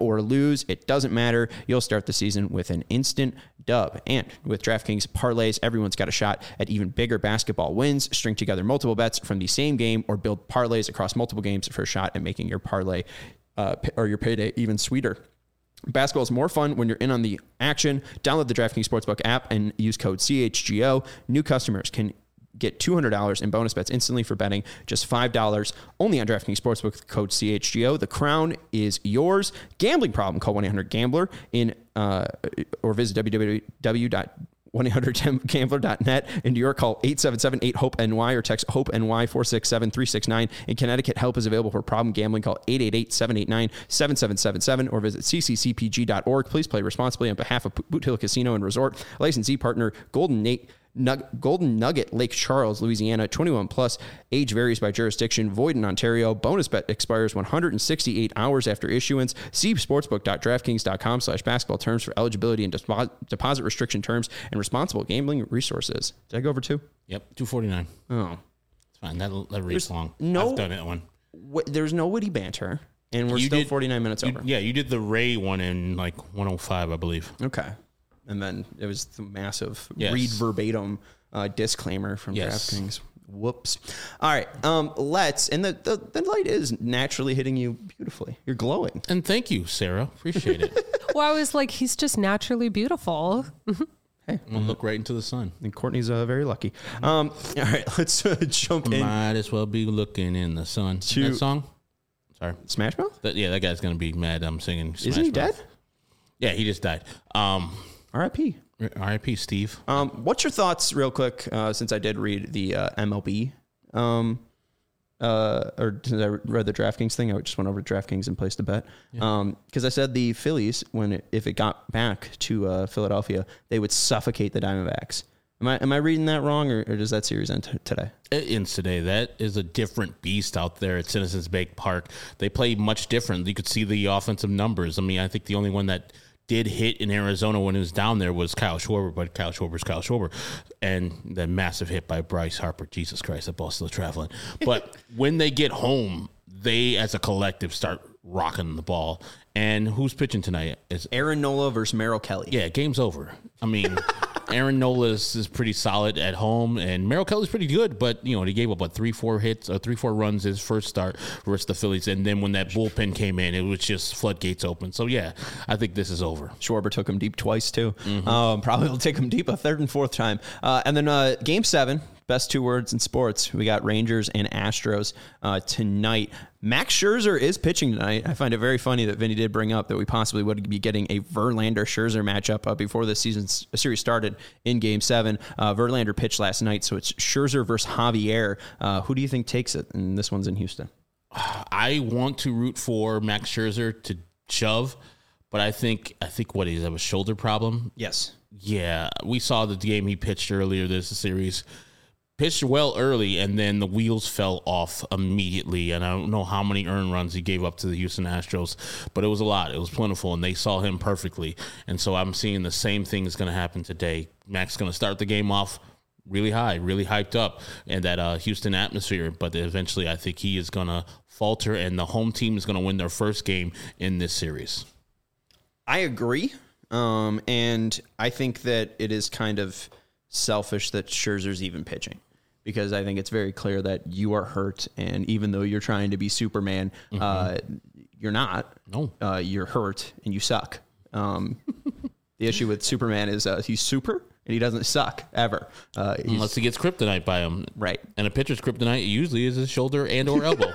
lose, it doesn't matter. You'll start the season with an instant dub. And with DraftKings parlays, everyone's got a shot at even bigger basketball wins. String together multiple bets from the same game or build parlays across multiple games for a shot at making your parlay uh, or your payday even sweeter. Basketball is more fun when you're in on the action. Download the DraftKings Sportsbook app and use code C H G O. New customers can get two hundred dollars in bonus bets instantly for betting just five dollars only on DraftKings Sportsbook with code C H G O. The crown is yours. Gambling problem? Call one eight hundred gambler in uh, or visit w w w dot one eight hundred gambler dot net. In New York, call eight seven seven eight hope N Y or text HOPE-NY four six seven three six nine. In Connecticut, help is available for problem gambling. Call eight eight eight seven eight nine seven seven seven seven or visit c c c p g dot org. Please play responsibly on behalf of Boot Hill Casino and Resort. Licensee partner Golden Nate. Nug- Golden Nugget, Lake Charles, Louisiana, twenty-one plus, age varies by jurisdiction, void in Ontario. Bonus bet expires one hundred sixty-eight hours after issuance. See sportsbook dot draftkings dot com slash basketball terms for eligibility and depo- deposit restriction terms and responsible gambling resources. Did I go over two? Yep, two forty-nine. Oh. It's fine. That, that reads long. No, I've done that one. W- there's no witty banter, and we're You still did- forty-nine minutes You, over. yeah, you did the Ray one in like one oh five, I believe. Okay. And then it was the massive Yes. read verbatim uh, disclaimer from Yes. DraftKings. Whoops. All right. Um, let's, and the, the, the light is naturally hitting you beautifully. You're glowing. And thank you, Sarah. Appreciate it. Well, I was like, he's just naturally beautiful. Hey. We'll look right into the sun. And Courtney's uh, very lucky. Um, all right. Let's uh, jump in. Might as well be looking in the sun. To- That song? Sorry. Smash Mouth? That, yeah, that guy's going to be mad I'm singing Smash Isn't he Mouth. dead? Yeah, he just died. Um, R I P R I P Steve. Um, what's your thoughts, real quick, uh, since I did read the uh, M L B, um, uh, or since I read the DraftKings thing, I just went over to DraftKings and placed a bet. Yeah. Um, because I said the Phillies, when it, if it got back to uh, Philadelphia, they would suffocate the Diamondbacks. Am I am I reading that wrong, or, or does that series end t- today? It ends today. That is a different beast out there at Citizens Bank Park. They play much different. You could see the offensive numbers. I mean, I think the only one that did hit in Arizona when he was down there was Kyle Schwarber, but Kyle Schwarber's Kyle Schwarber. And the massive hit by Bryce Harper. Jesus Christ, that ball's still traveling. But when they get home, they as a collective start rocking the ball. And who's pitching tonight? It's Aaron Nola versus Merrill Kelly. Yeah, game's over. I mean, Aaron Nola is, is pretty solid at home, and Merrill Kelly's pretty good, but, you know, he gave up, what, three, four hits, uh, three, four runs his first start versus the Phillies, and then when that bullpen came in, it was just floodgates open. So, yeah, I think this is over. Schwarber took him deep twice, too. Mm-hmm. Um, probably will take him deep a third and fourth time. Uh, and then uh, game seven, best two words in sports. We got Rangers and Astros uh, tonight. Max Scherzer is pitching tonight. I find it very funny that Vinny did bring up that we possibly would be getting a Verlander-Scherzer matchup uh, before the season's series started in Game seven. Uh, Verlander pitched last night, so it's Scherzer versus Javier. Uh, who do you think takes it? And this one's in Houston. I want to root for Max Scherzer to shove, but I think, I think what, is that a shoulder problem? Yes. Yeah, we saw the game he pitched earlier this series. Pitched well early, and then the wheels fell off immediately. And I don't know how many earned runs he gave up to the Houston Astros, but it was a lot. It was plentiful, and they saw him perfectly. And so I'm seeing the same thing is going to happen today. Max is going to start the game off really high, really hyped up in that uh, Houston atmosphere. But eventually I think he is going to falter, and the home team is going to win their first game in this series. I agree. Um, and I think that it is kind of selfish that Scherzer's even pitching, because I think it's very clear that you are hurt. And even though you're trying to be Superman, mm-hmm. uh, you're not. No, uh, you're hurt and you suck. Um, the issue with Superman is uh, he's super and he doesn't suck ever. Uh, Unless he gets kryptonite by him. Right. And a pitcher's kryptonite usually is his shoulder and or elbow.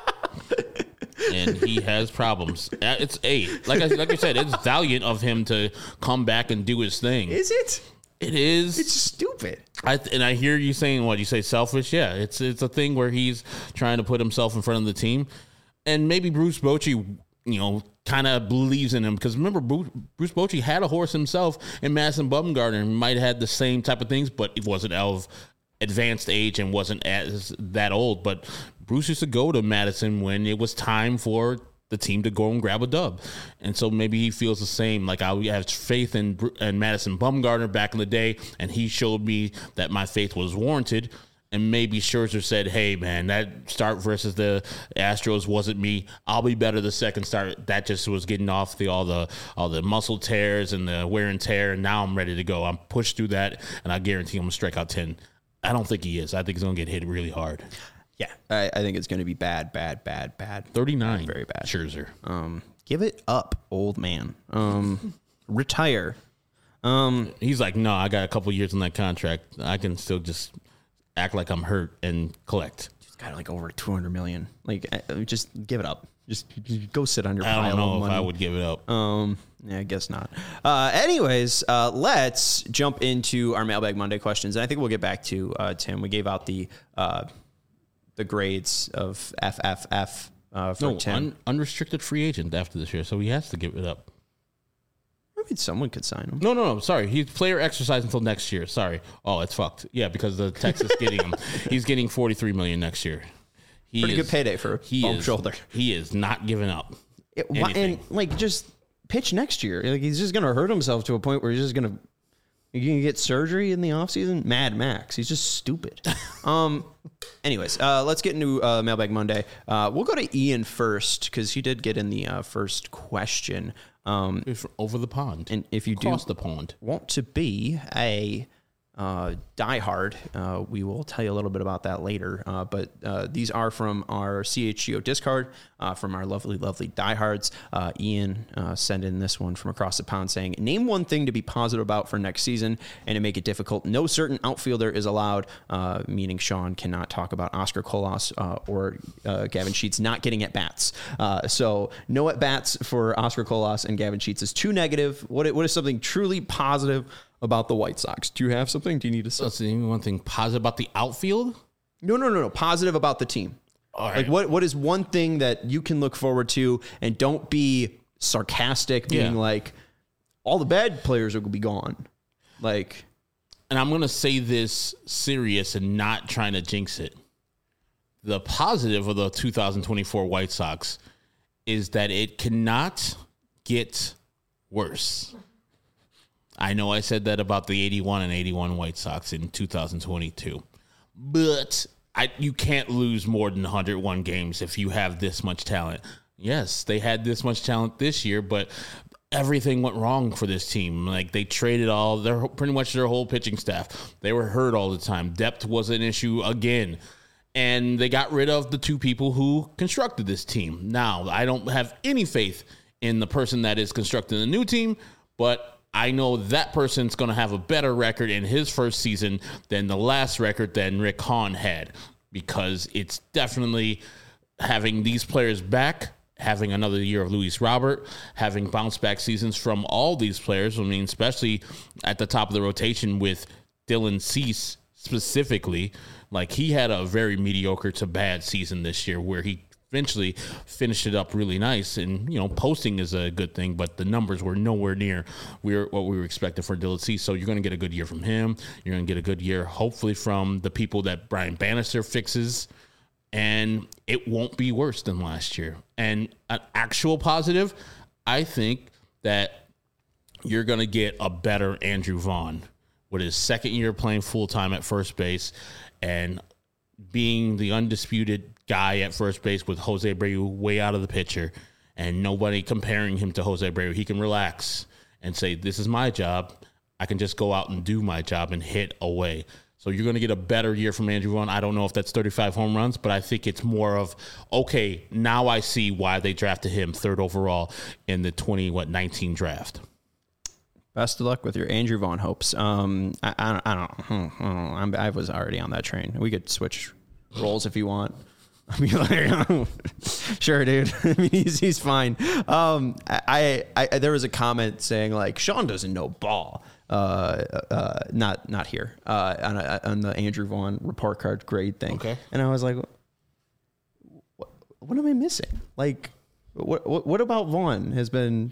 And he has problems. It's a like I like I said, it's valiant of him to come back and do his thing. Is it? It is. It's stupid. I and I hear you saying what you say selfish. Yeah, it's it's a thing where he's trying to put himself in front of the team, and maybe Bruce Bochy, you know, kind of believes in him, because remember Bruce, Bruce Bochy had a horse himself in Madison Bumgarner, and might have had the same type of things, but it wasn't of advanced age and wasn't as that old. But Bruce used to go to Madison when it was time for the team to go and grab a dub. And so maybe he feels the same. Like, I have faith in, in Madison Bumgarner back in the day, and he showed me that my faith was warranted. And maybe Scherzer said, hey, man, that start versus the Astros wasn't me. I'll be better the second start. That just was getting off the all the all the muscle tears and the wear and tear, and now I'm ready to go. I'm pushed through that, and I guarantee I'm going to strike out ten. I don't think he is. I think he's going to get hit really hard. Yeah, I, I think it's going to be bad, bad, bad, bad. thirty-nine. Very bad. Scherzer. Um, give it up, old man. Um, retire. Um, He's like, no, I got a couple years on that contract. I can still just act like I'm hurt and collect. He's got like over two hundred million. Like, uh, just give it up. Just, just go sit on your I pile don't know of if money. I would give it up. Um, yeah, I guess not. Uh, anyways, uh, let's jump into our Mailbag Monday questions. And I think we'll get back to uh, Tim. We gave out the uh, the grades of F F F uh, for No, Tim. un- unrestricted free agent after this year, so he has to give it up. I mean, someone could sign him. No, no, no. Sorry. He's player exercise until next year. Sorry. Oh, it's fucked. Yeah, because the Texas getting him. He's getting forty-three million dollars next year. He Pretty is, good payday for he bump is, shoulder. He is not giving up. It, why, and like, just pitch next year. Like, he's just gonna hurt himself to a point where he's just gonna you're gonna get surgery in the offseason. Mad Max. He's just stupid. um. Anyways, uh, let's get into uh, Mailbag Monday. Uh, we'll go to Ian first because he did get in the uh, first question. Um, Over the pond. and if you Across do the pond. want to be a uh, diehard, uh, we will tell you a little bit about that later. Uh, but uh, these are from our C H G O Discard, uh, from our lovely, lovely diehards. Uh, Ian uh, sent in this one from across the pond saying, name one thing to be positive about for next season and to make it difficult. No certain outfielder is allowed, uh, meaning Sean cannot talk about Oscar Colas uh, or uh, Gavin Sheets not getting at bats. Uh, so no at bats for Oscar Colas and Gavin Sheets is too negative. What, what is something truly positive about the White Sox? Do you have something? Do you need to say? Let's see, one thing positive about the outfield? No, no, no, no. Positive about the team. All right. Like what, what is one thing that you can look forward to, and don't be sarcastic, being Yeah. like, all the bad players will be gone. Like, And I'm going to say this serious and not trying to jinx it. The positive of the two thousand twenty-four White Sox is that it cannot get worse. I know I said that about the eighty-one and eighty-one White Sox in two thousand twenty-two, but I, you can't lose more than one hundred one games if you have this much talent. Yes, they had this much talent this year, but everything went wrong for this team. Like, they traded all their pretty much their whole pitching staff. They were hurt all the time. Depth was an issue again. And they got rid of the two people who constructed this team. Now, I don't have any faith in the person that is constructing the new team, but I know that person's going to have a better record in his first season than the last record that Rick Hahn had, because it's definitely having these players back, having another year of Luis Robert, having bounce back seasons from all these players. I mean, especially at the top of the rotation with Dylan Cease specifically. Like, he had a very mediocre to bad season this year where he eventually finished it up really nice. And, you know, posting is a good thing, but the numbers were nowhere near we were, what we were expecting for Dylan Cease. So you're going to get a good year from him. You're going to get a good year, hopefully, from the people that Brian Bannister fixes. And it won't be worse than last year. And an actual positive, I think that you're going to get a better Andrew Vaughn with his second year playing full-time at first base and being the undisputed guy at first base with Jose Abreu way out of the picture and nobody comparing him to Jose Abreu. He can relax and say, this is my job. I can just go out and do my job and hit away. So you're going to get a better year from Andrew Vaughn. I don't know if that's thirty-five home runs, but I think it's more of, okay, now I see why they drafted him third overall in the twenty what nineteen draft. best of luck with your Andrew Vaughn hopes. Um, I, I don't, I don't, I, don't know. I'm, I was already on that train. We could switch roles if you want. I mean, like, sure, dude. I mean, he's he's fine. Um, I, I, I there was a comment saying like Sean doesn't know ball. Uh, uh, not not here. Uh, on a, on the Andrew Vaughn report card grade thing. Okay. And I was like, what, what am I missing? Like, what what, what about Vaughn has been?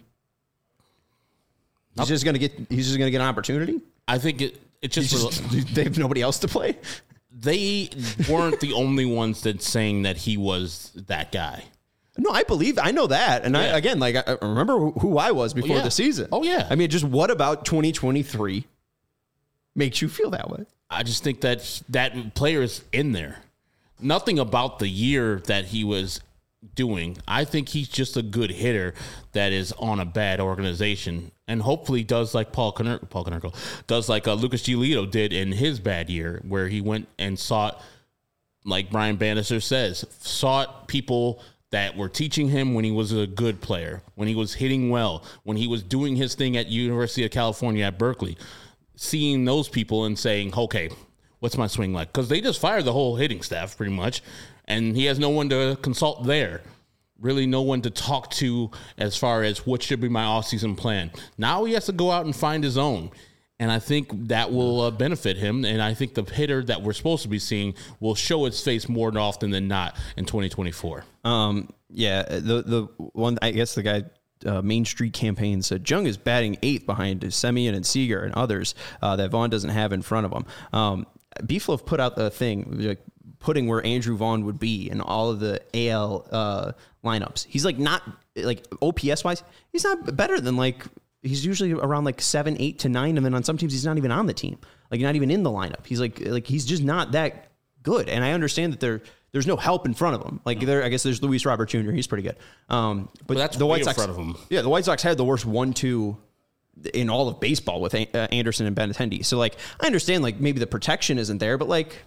He's Nope. just gonna get. He's just gonna get an opportunity. I think it it just, Just, they have nobody else to play. they weren't the only ones that saying that he was that guy. No, I believe I know that, and I Yeah. again, like I I remember who, who I was before yeah. the season. Oh, yeah. I mean, just what about twenty twenty-three makes you feel that way? I just think that he, that player is in there. Nothing about the year that he was doing. I think he's just a good hitter that is on a bad organization, and hopefully does like Paul Koner- Paul Konerko does like uh, Lucas Giolito did in his bad year, where he went and sought, like Brian Bannister says, sought people that were teaching him when he was a good player, when he was hitting well, when he was doing his thing at University of California at Berkeley, seeing those people and saying, okay, what's my swing like? Because they just fired the whole hitting staff pretty much, and he has no one to consult there. Really no one to talk to as far as what should be my offseason plan. Now he has to go out and find his own. And I think that will uh, benefit him. And I think the hitter that we're supposed to be seeing will show its face more often than not in twenty twenty-four. Um, yeah, the the one, I guess the guy, uh, Main Street Campaign said Jung is batting eighth behind Semien and Seager and others uh, that Vaughn doesn't have in front of him. Um, Beefloaf put out the thing, like, putting where Andrew Vaughn would be in all of the A L uh, lineups. He's like not, like O P S wise, he's not better than like, he's usually around like seven, eight to nine. And then on some teams, he's not even on the team, like not even in the lineup. He's like, like he's just not that good. And I understand that there, there's no help in front of him. Like there, I guess there's Luis Robert Junior He's pretty good. Um, but, but that's the White way Sox, in front of him. Yeah, the White Sox had the worst one, two in all of baseball with uh, Anderson and Benintendi. So like, I understand like maybe the protection isn't there, but like,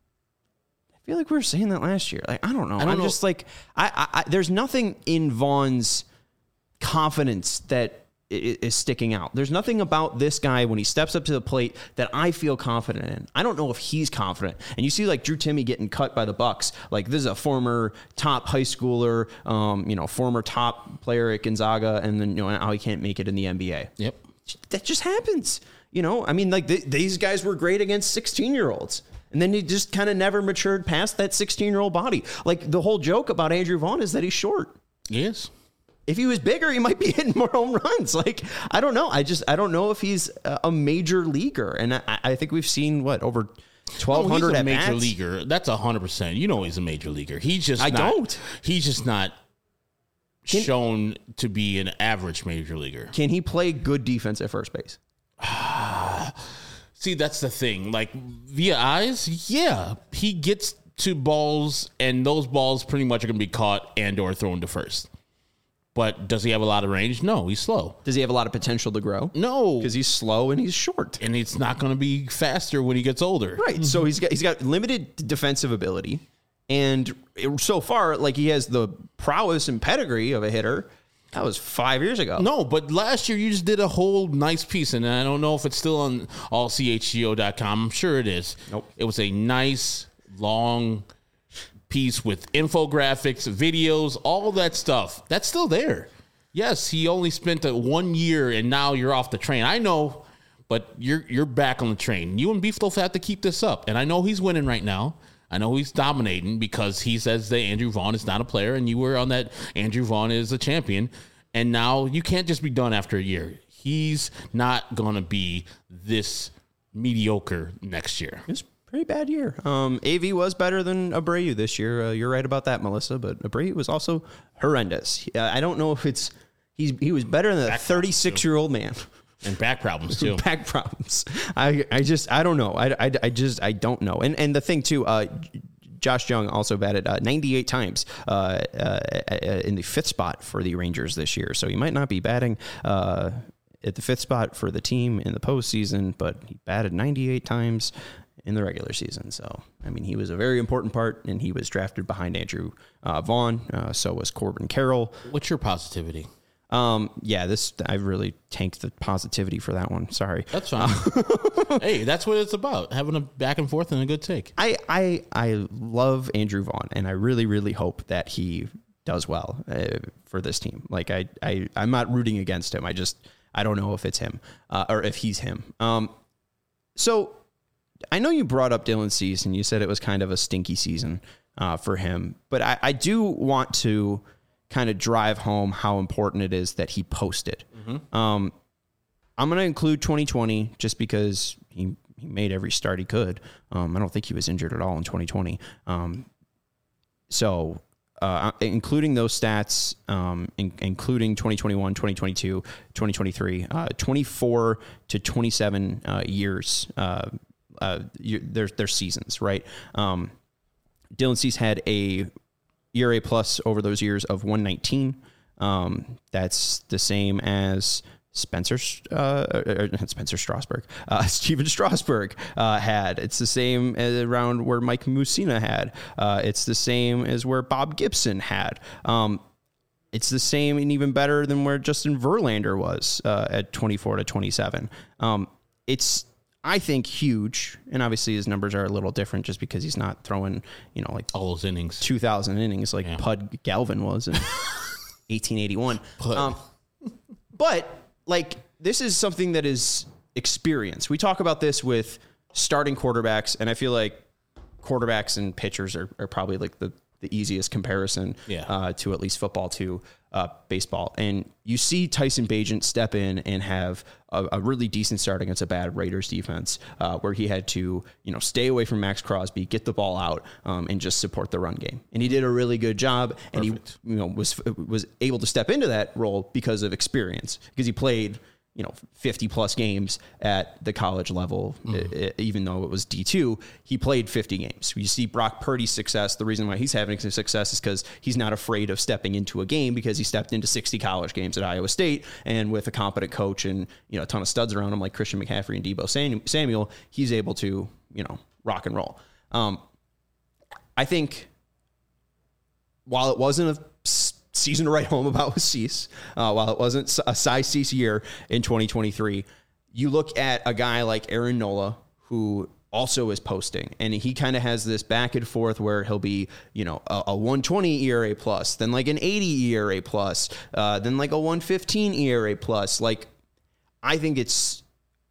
I feel like we were saying that last year. Like, I don't know. I don't I'm know. just like, I, I, I, there's nothing in Vaughn's confidence that is sticking out. There's nothing about this guy when he steps up to the plate that I feel confident in. I don't know if he's confident. And you see like Drew Timme getting cut by the Bucks. Like this is a former top high schooler, um, you know, former top player at Gonzaga, and then you know how he can't make it in the N B A. Yep, that just happens. You know, I mean, like th- these guys were great against sixteen year olds. And then he just kind of never matured past that sixteen-year-old body. Like the whole joke about Andrew Vaughn is that he's short. Yes. If he was bigger, he might be hitting more home runs. Like, I don't know. I just, I don't know if he's a major leaguer. And I, I think we've seen, what, over twelve hundred oh, he's a at major bats? leaguer. That's one hundred percent. You know he's a major leaguer. He's just I not, don't. He's just not Can, shown to be an average major leaguer. Can he play good defense at first base? See, that's the thing. Like, via eyes, yeah. He gets to balls, and those balls pretty much are going to be caught and or thrown to first. But does he have a lot of range? No, he's slow. Does he have a lot of potential to grow? No. Because he's slow and he's short. And it's not going to be faster when he gets older. Right. Mm-hmm. So he's got he's got limited defensive ability. And so far, like, he has the prowess and pedigree of a hitter. That was five years ago. No, but last year you just did a whole nice piece, and I don't know if it's still on all c h g o dot com. I'm sure it is. Nope. It was a nice, long piece with infographics, videos, all that stuff. That's still there. Yes, he only spent a one year, and now you're off the train. I know, but you're you're back on the train. You and Beefloaf have to keep this up, and I know he's winning right now. I know he's dominating because he says that Andrew Vaughn is not a player, and you were on that Andrew Vaughn is a champion. And now you can't just be done after a year. He's not going to be this mediocre next year. It's a pretty bad year. Um, A V was better than Abreu this year. Uh, you're right about that, Melissa, but Abreu was also horrendous. Uh, I don't know if it's he's he was better than a thirty-six-year-old man. And back problems too. Back problems. I, I just I don't know. I, I, I just I don't know. And and the thing too, uh, Josh Jung also batted uh, ninety-eight times uh, uh, in the fifth spot for the Rangers this year. So he might not be batting uh, at the fifth spot for the team in the postseason, but he batted ninety-eight times in the regular season. So I mean, he was a very important part, and he was drafted behind Andrew uh, Vaughn. Uh, so was Corbin Carroll. What's your positivity? Um, yeah, this, I really tanked the positivity for that one. Sorry. That's fine. Hey, that's what it's about. Having a back and forth and a good take. I, I, I love Andrew Vaughn, and I really, really hope that he does well uh, for this team. Like I, I, I'm not rooting against him. I just, I don't know if it's him, uh, or if he's him. Um, so I know you brought up Dylan Cease, and you said it was kind of a stinky season, uh, for him, but I, I do want to kind of drive home how important it is that he posted. Mm-hmm. Um, I'm going to include twenty twenty just because he, he made every start he could. Um, I don't think he was injured at all in twenty twenty. Um, so uh, including those stats, um, in, including twenty twenty-one, twenty twenty-two, twenty twenty-three, uh, twenty-four to twenty-seven uh, years uh, uh, you, their their seasons, right? Um, Dylan Cease had a E R A plus over those years of one nineteen. Um, that's the same as Spencer, uh, or Spencer Strasburg, uh, Steven Strasburg uh, had. It's the same as around where Mike Mussina had. Uh, it's the same as where Bob Gibson had. Um, it's the same and even better than where Justin Verlander was uh, at twenty-four to twenty-seven. Um, it's, I think, huge. And obviously his numbers are a little different just because he's not throwing, you know, like all those innings, two thousand innings like yeah. Pud Galvin was in eighteen eighty-one. Pud. Um, but like, this is something that is experience. We talk about this with starting quarterbacks, and I feel like quarterbacks and pitchers are, are probably like the, the easiest comparison yeah. uh, to at least football to uh, baseball. And you see Tyson Bagent step in and have a, a really decent start against a bad Raiders defense uh, where he had to, you know, stay away from Max Crosby, get the ball out, um, and just support the run game. And he did a really good job. And Perfect. he, you know, was was able to step into that role because of experience, because he played, you know, fifty plus games at the college level, mm. I, even though it was D two, he played fifty games. You see Brock Purdy's success. The reason why he's having success is because he's not afraid of stepping into a game, because he stepped into sixty college games at Iowa State, and with a competent coach and, you know, a ton of studs around him like Christian McCaffrey and Deebo Samuel, he's able to, you know, rock and roll. Um, I think while it wasn't a season to write home about with Cease, uh, while it wasn't a Cy Cease year in twenty twenty-three, you look at a guy like Aaron Nola, who also is posting, and he kind of has this back and forth where he'll be, you know, a, a one twenty E R A plus, then like an eighty E R A plus, uh, then like a one fifteen E R A plus. Like, I think it's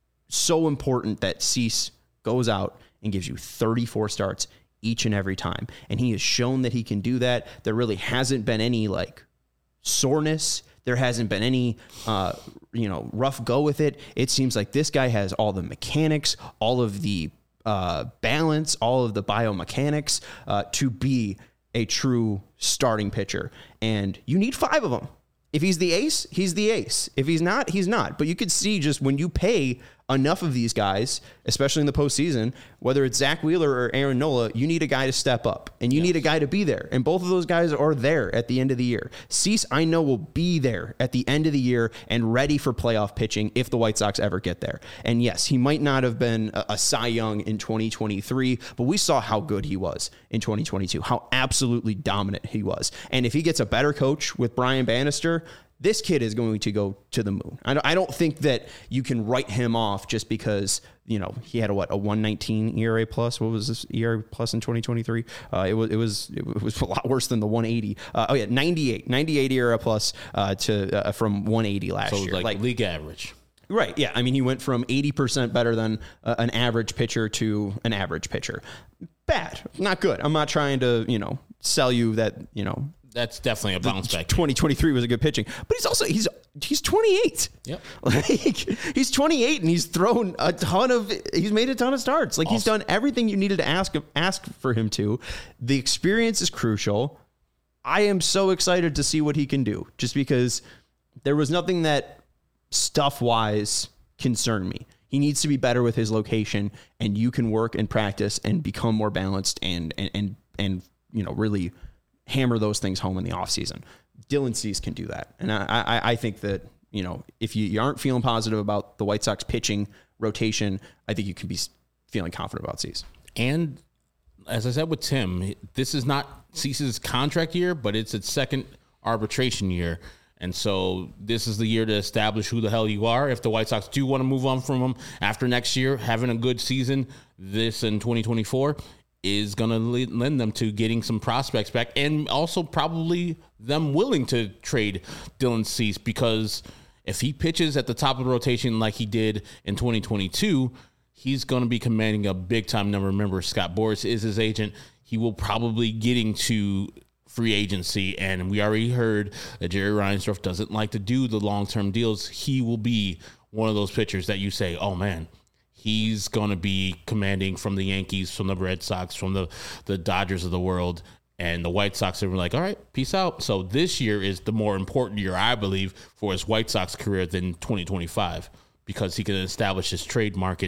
so important that Cease goes out and gives you thirty-four starts each and every time. And he has shown that he can do that. There really hasn't been any like soreness. There hasn't been any, uh, you know, rough go with it. It seems like this guy has all the mechanics, all of the uh, balance, all of the biomechanics uh, to be a true starting pitcher. And you need five of them. If he's the ace, he's the ace. If he's not, he's not. But you could see just when you pay enough of these guys, especially in the postseason, whether it's Zach Wheeler or Aaron Nola, you need a guy to step up, and you yes. need a guy to be there. And both of those guys are there at the end of the year. Cease, I know, will be there at the end of the year and ready for playoff pitching if the White Sox ever get there. And yes, he might not have been a, a Cy Young in twenty twenty-three, but we saw how good he was in twenty twenty-two, how absolutely dominant he was. And if he gets a better coach with Brian Bannister, this kid is going to go to the moon. I don't think that you can write him off just because, you know, he had a what a one nineteen E R A plus. What was this E R A plus in twenty twenty-three? Uh, it was it was it was a lot worse than the one eighty. Uh, oh yeah, ninety-eight, ninety-eight E R A plus uh, to uh, from one eighty last so year, like, like league average. Right. Yeah. I mean, he went from eighty percent better than uh, an average pitcher to an average pitcher. Bad, not good. I'm not trying to, you know, sell you that, you know. That's definitely a bounce back. twenty twenty-three was a good pitching, but he's also he's he's twenty-eight. Yep. Like, he's twenty-eight and he's thrown a ton of he's made a ton of starts. Like, awesome. He's done everything you needed to ask ask for him to. The experience is crucial. I am so excited to see what he can do, just because there was nothing that stuff wise concerned me. He needs to be better with his location, and you can work and practice and become more balanced and and and, and you know, really hammer those things home in the offseason. Dylan Cease can do that. And I, I, I think that, you know, if you, you aren't feeling positive about the White Sox pitching rotation, I think you can be feeling confident about Cease. And as I said with Tim, this is not Cease's contract year, but it's its second arbitration year. And so this is the year to establish who the hell you are. If the White Sox do want to move on from him after next year, having a good season, this in twenty twenty-four, is going to lend them to getting some prospects back, and also probably them willing to trade Dylan Cease, because if he pitches at the top of the rotation like he did in twenty twenty-two, he's going to be commanding a big-time number. Remember, Scott Boras is his agent. He will probably getting to free agency, and we already heard that Jerry Reinsdorf doesn't like to do the long-term deals. He will be one of those pitchers that you say, oh, man, he's going to be commanding from the Yankees, from the Red Sox, from the, the Dodgers of the world. And the White Sox are like, all right, peace out. So this year is the more important year, I believe, for his White Sox career than twenty twenty-five, because he can establish his trade market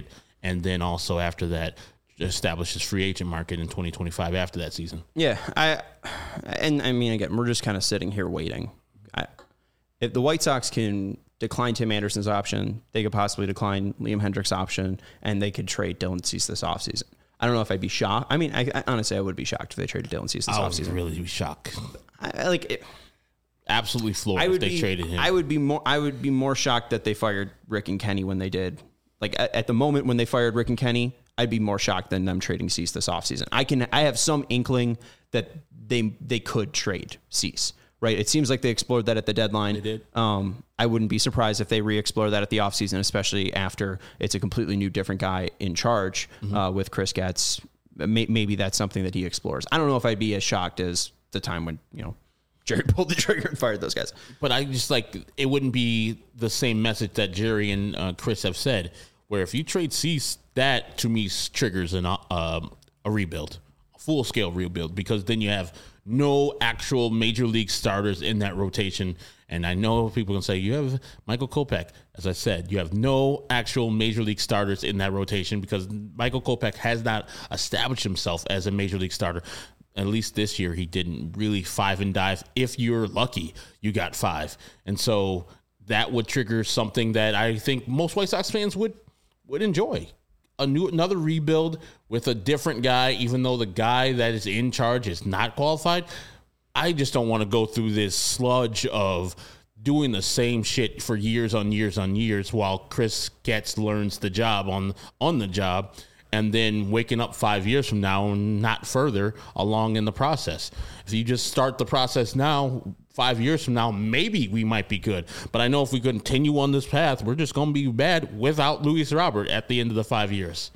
and then also after that, establish his free agent market in twenty twenty-five after that season. Yeah, I and I mean again, we're just kind of sitting here waiting. I, if the White Sox can decline Tim Anderson's option, they could possibly decline Liam Hendriks' option, and they could trade Dylan Cease this offseason. I don't know if I'd be shocked. I mean, I, I honestly I would be shocked if they traded Dylan Cease this I offseason. would really be shocked. I, I like it. Absolutely floored I if would they be, traded him. I would be more. I would be more shocked that they fired Rick and Kenny when they did. Like at, at the moment when they fired Rick and Kenny, I'd be more shocked than them trading Cease this offseason. I can. I have some inkling that they they could trade Cease. Right. It seems like they explored that at the deadline. They did. Um, I wouldn't be surprised if they re-explore that at the offseason, especially after it's a completely new, different guy in charge mm-hmm. uh, with Chris Getz. May, maybe that's something that he explores. I don't know if I'd be as shocked as the time when, you know, Jerry pulled the trigger and fired those guys. But I just like, it wouldn't be the same message that Jerry and uh, Chris have said, where if you trade Cease, that to me triggers an, uh, a rebuild, a full-scale rebuild, because then you have no actual major league starters in that rotation. And I know people can say, you have Michael Kopech. As I said, you have no actual major league starters in that rotation because Michael Kopech has not established himself as a major league starter. At least this year, he didn't really five and dive. If you're lucky, you got five. And so that would trigger something that I think most White Sox fans would would enjoy. A new another rebuild with a different guy, even though the guy that is in charge is not qualified. I just don't want to go through this sludge of doing the same shit for years on years on years while Chris Getz learns the job on on the job, and then waking up five years from now and not further along in the process. If you just start the process now, five years from now, maybe we might be good. But I know if we continue on this path, we're just going to be bad without Luis Robert at the end of the five years.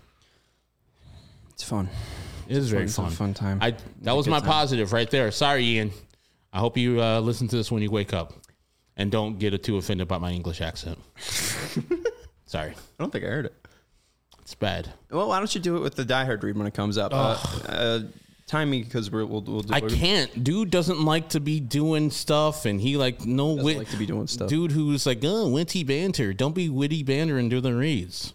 It's fun. It is very fun. fun. It's a fun time. I that was my time. positive right there. Sorry, Ian. I hope you uh, listen to this when you wake up, and don't get too offended about my English accent. Sorry, I don't think I heard it. It's bad. Well, why don't you do it with the Die Hard read when it comes up? Uh, uh, time me because we're, we'll we'll do. I can't. Dude doesn't like to be doing stuff, and he like no Doesn't wit. like to be doing stuff. Dude who's like, oh, witty banter. Don't be witty banter and do the reads.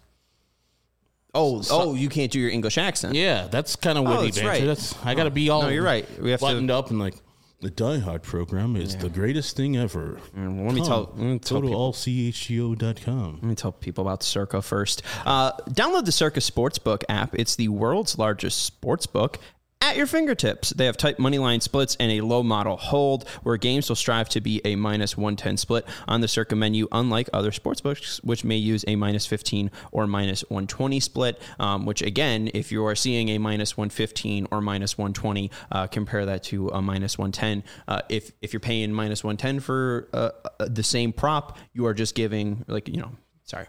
Oh, oh, you can't do your English accent. Yeah, that's kind of Oh, witty that's banter. right. That's I got to be all. No, you're right. We have to- buttoned up and like the Die Hard program is the greatest thing ever. Mm, let me tell- let me tell Go to people. all c h g o dot com. Let me tell people about Circa first. Uh, download the Circa Sportsbook app. It's the world's largest sportsbook at your fingertips. They have tight money line splits and a low model hold where games will strive to be a minus one ten split on the Circa menu, unlike other sportsbooks, which may use a minus fifteen or minus one twenty split, um, which again, if you are seeing a minus one fifteen or minus one twenty, uh, compare that to a minus one ten. Uh, if, if you're paying minus one ten for uh, uh, the same prop, you are just giving, like, you know, sorry.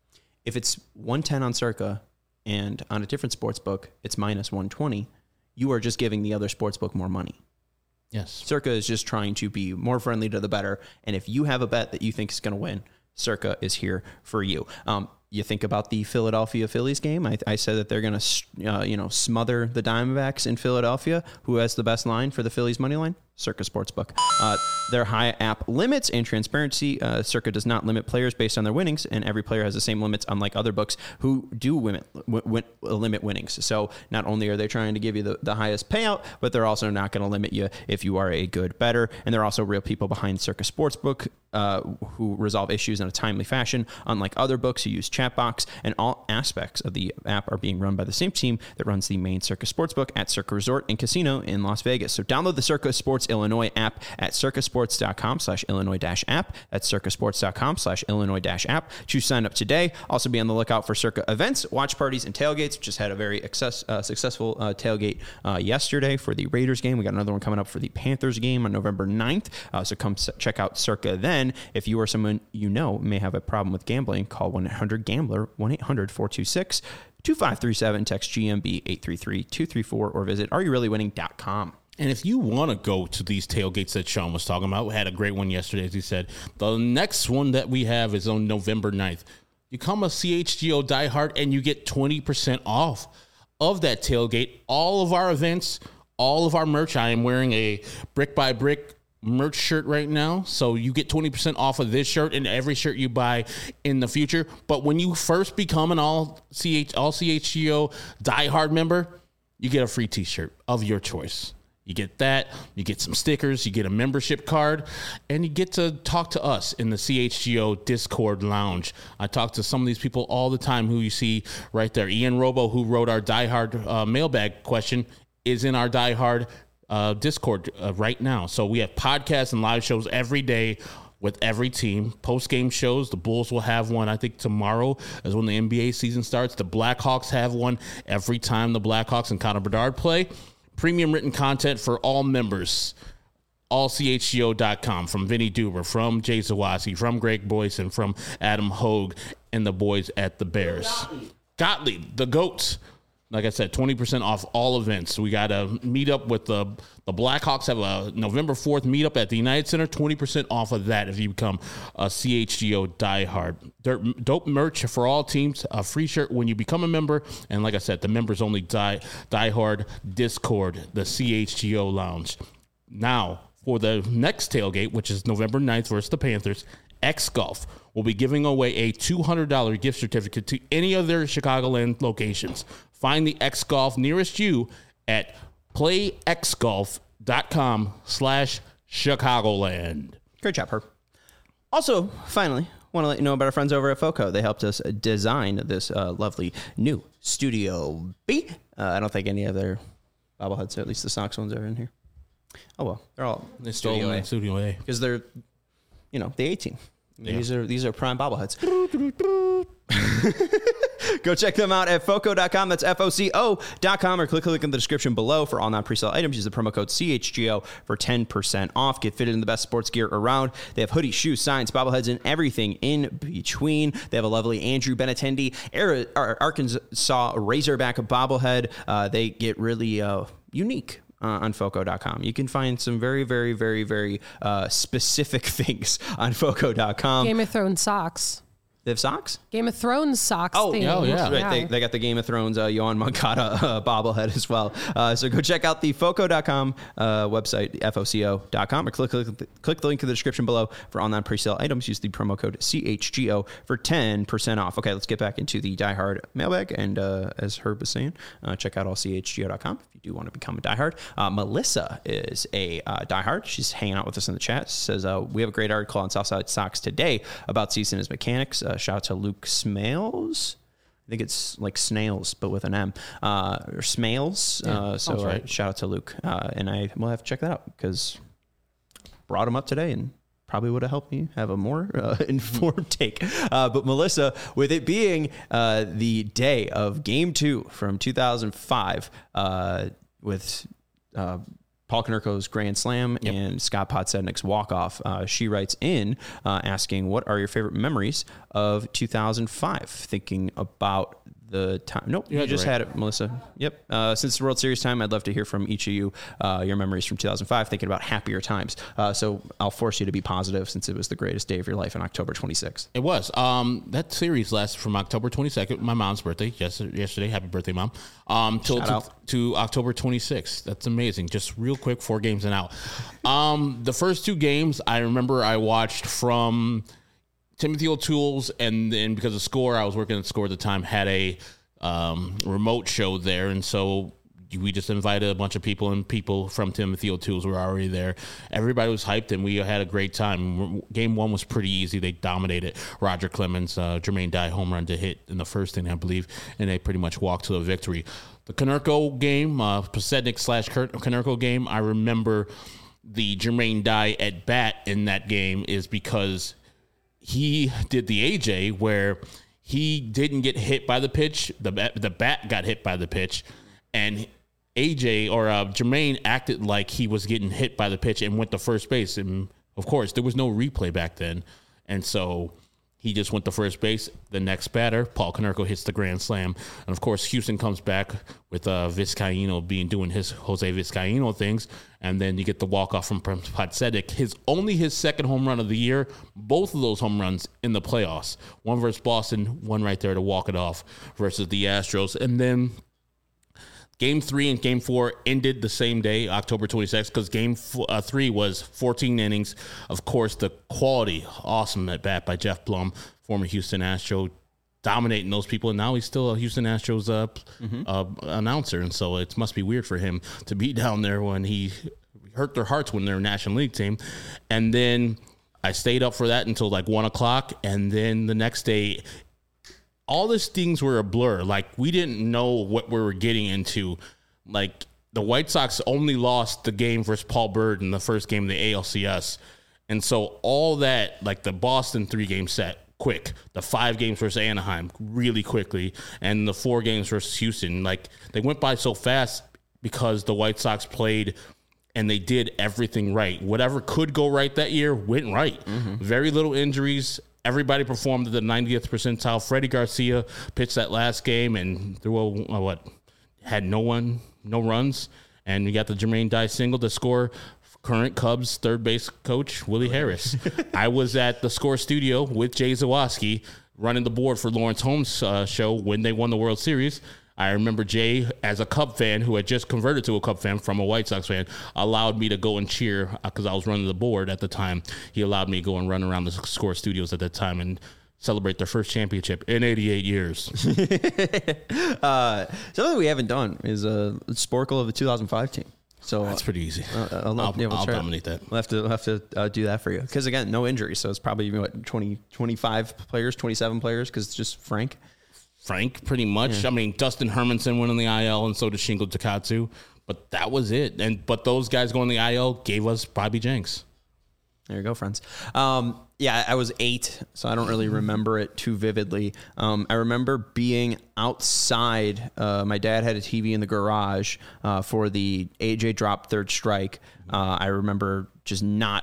If it's one ten on Circa and on a different sports book, it's minus one twenty, you are just giving the other sports book more money. Yes. Circa is just trying to be more friendly to the bettor. And if you have a bet that you think is going to win, Circa is here for you. Um, you think about the Philadelphia Phillies game. I, I said that they're going to, uh, you know, smother the Diamondbacks in Philadelphia. Who has the best line for the Phillies money line? Circa Sportsbook. Uh, their high app limits and transparency. Uh, Circa does not limit players based on their winnings, and every player has the same limits, unlike other books who do limit, w- limit winnings. So not only are they trying to give you the, the highest payout, but they're also not going to limit you if you are a good bettor. And there are also real people behind Circa Sportsbook uh, who resolve issues in a timely fashion, unlike other books who use chat box. And all aspects of the app are being run by the same team that runs the main Circa Sportsbook at Circa Resort and Casino in Las Vegas. So download the Circa Sports Illinois app at circasports.com slash Illinois dash app. That's circasports.com slash Illinois dash app to sign up today. Also be on the lookout for Circa events, watch parties, and tailgates. Just had a very excess, uh, successful uh, tailgate uh, yesterday for the Raiders game. We got another one coming up for the Panthers game on November ninth. Uh, so come s- check out Circa then. If you or someone you know may have a problem with gambling, call one eight hundred gambler, one eight hundred four two six two five three seven, text G M B eight three three two three four, or visit are you really winning dot com. And if you want to go to these tailgates that Sean was talking about, we had a great one yesterday, as he said. The next one that we have is on November ninth. You come a C H G O diehard and you get twenty percent off of that tailgate. All of our events, all of our merch. I am wearing a brick by brick merch shirt right now, so you get twenty percent off of this shirt and every shirt you buy in the future. But when you first become an all C H all C H G O diehard member, you get a free t-shirt of your choice. You get that, you get some stickers, you get a membership card, and you get to talk to us in the C H G O Discord lounge. I talk to some of these people all the time who you see right there. Ian Robo, who wrote our diehard uh, mailbag question, is in our diehard uh, Discord uh, right now. So we have podcasts and live shows every day with every team. Post-game shows, the Bulls will have one, I think, tomorrow is when the N B A season starts. The Blackhawks have one every time the Blackhawks and Connor Bedard play. Premium written content for all members, all C H G O dot com, from Vinny Duber, from Jay Zawaski, from Greg Boyce, and from Adam Hogue and the boys at the Bears. Gottlieb, the GOAT. Like I said, twenty percent off all events. We got a meetup with the the Blackhawks, have a November fourth meetup at the United Center. twenty percent off of that if you become a C H G O diehard. Dope merch for all teams, a free shirt when you become a member. And like I said, the members only die, diehard Discord, the C H G O Lounge. Now, for the next tailgate, which is November ninth versus the Panthers, X Golf will be giving away a two hundred dollars gift certificate to any of their Chicagoland locations. Find the X Golf nearest you at playxgolf.com slash Chicagoland. Great job, Herb. Also, finally, want to let you know about our friends over at FOCO. They helped us design this uh, lovely new Studio B. Uh, I don't think any of their bobbleheads, at least the Sox ones, are in here. Oh, well, they're all They Studio stole A. in Studio A. Because they're, you know, the eighteen. Yeah. These are these are prime bobbleheads. Go check them out at foco dot com. That's F O C O dot com, or click the link in the description below for all non-presale items. Use the promo code C H G O for ten percent off. Get fitted in the best sports gear around. They have hoodies, shoes, signs, bobbleheads, and everything in between. They have a lovely Andrew Benintendi Arkansas Razorback bobblehead. Uh, they get really uh, unique. Uh, on foco dot com. You can find some very, very, very, very uh, specific things on foco dot com. Game of Thrones socks. They have socks? Game of Thrones socks. Oh, theme. oh yeah. Right. They, they got the Game of Thrones, uh, Yohan Moncada uh, bobblehead as well. Uh, so go check out the foco dot com uh, website, F O C O dot com, or click, click, click the link in the description below for online pre-sale items. Use the promo code C H G O for ten percent off. Okay, let's get back into the Die Hard mailbag. And uh, as Herb was saying, uh, check out all C H G O dot com if you do want to become a Die Hard. Uh, Melissa is a uh, Die Hard. She's hanging out with us in the chat. She says, uh, we have a great article on Southside Sox today about season as mechanics. Uh, shout out to Luke Smales. I think it's like snails, but with an M, uh, or Smales. Yeah, uh, so right. uh, shout out to Luke. Uh, and I will have to check that out because brought him up today and probably would have helped me have a more uh, informed take. Uh, but Melissa, with it being uh, the day of game two from two thousand five uh, with uh, Paul Konerko's Grand Slam Yep. and Scott Podsednik's walk-off, uh, she writes in uh, asking, what are your favorite memories of two thousand five? Thinking about the time. Nope, You you, had it just right. had it, Melissa. Yep. Uh, since the World Series time, I'd love to hear from each of you uh, your memories from two thousand five, thinking about happier times. Uh, so I'll force you to be positive since it was the greatest day of your life on October twenty-sixth. It was. Um, that series lasted from October twenty-second, my mom's birthday, yesterday, yesterday happy birthday, Mom, um, till Shout to, out. to October twenty-sixth. That's amazing. Just real quick, four games and out. Um, the first two games, I remember I watched from Timothy O'Toole's, and then because of Score, I was working at Score at the time, had a um, remote show there, and so we just invited a bunch of people, and people from Timothy O'Toole's were already there. Everybody was hyped, and we had a great time. Game one was pretty easy. They dominated. Roger Clemens, uh, Jermaine Dye home run to hit in the first inning, I believe, and they pretty much walked to a victory. The Konerko game, uh, Podsednik slash Konerko game, I remember the Jermaine Dye at bat in that game is because he did the A J where he didn't get hit by the pitch. The bat, the bat got hit by the pitch, and A J or uh, Jermaine acted like he was getting hit by the pitch and went to first base. And of course, there was no replay back then, and so he just went to first base. The next batter, Paul Konerko, hits the grand slam, and of course, Houston comes back with uh, Vizcaino being doing his Jose Vizcaino things, and then you get the walk off from Podsednik. His only his second home run of the year. Both of those home runs in the playoffs. One versus Boston, one right there to walk it off versus the Astros, and then Game three and game four ended the same day, October twenty-sixth, because game f- uh, three was fourteen innings. Of course, the quality, awesome at bat by Jeff Blum, former Houston Astro, dominating those people. And now he's still a Houston Astros uh, mm-hmm. uh, announcer. And so it must be weird for him to be down there when he hurt their hearts when they're a National League team. And then I stayed up for that until like one o'clock. And then the next day, all these things were a blur. Like, we didn't know what we were getting into. Like, the White Sox only lost the game versus Paul Bird in the first game of the A L C S. And so all that, like the Boston three-game set, quick. The five games versus Anaheim, really quickly. And the four games versus Houston. Like, they went by so fast because the White Sox played and they did everything right. Whatever could go right that year went right. Mm-hmm. Very little injuries. Everybody performed at the ninetieth percentile. Freddie Garcia pitched that last game and threw a, a what had no one, no runs, and you got the Jermaine Dye single to score. Current Cubs third base coach Willie Harris. I was at the Score Studio with Jay Zawaski running the board for Lawrence Holmes' uh, show when they won the World Series. I remember Jay, as a Cub fan who had just converted to a Cub fan from a White Sox fan, allowed me to go and cheer because I was running the board at the time. He allowed me to go and run around the Score Studios at that time and celebrate their first championship in eighty-eight years. uh, something we haven't done is a uh, Sporkle of the two thousand five team. So that's pretty easy. Uh, I'll, I'll, yeah, we'll I'll try dominate that. We'll have to we'll have to uh, do that for you because again, no injuries, so it's probably what twenty, twenty-five players, twenty-seven players because it's just Frank. Frank, pretty much. Yeah. I mean, Dustin Hermanson went on the I L, and so did Shingo Takatsu, but that was it. And but those guys going on the I L gave us Bobby Jenks. There you go, friends. Um, yeah, I was eight, so I don't really remember it too vividly. Um, I remember being outside. Uh, my dad had a T V in the garage uh, for the A J drop third strike. Uh, I remember just not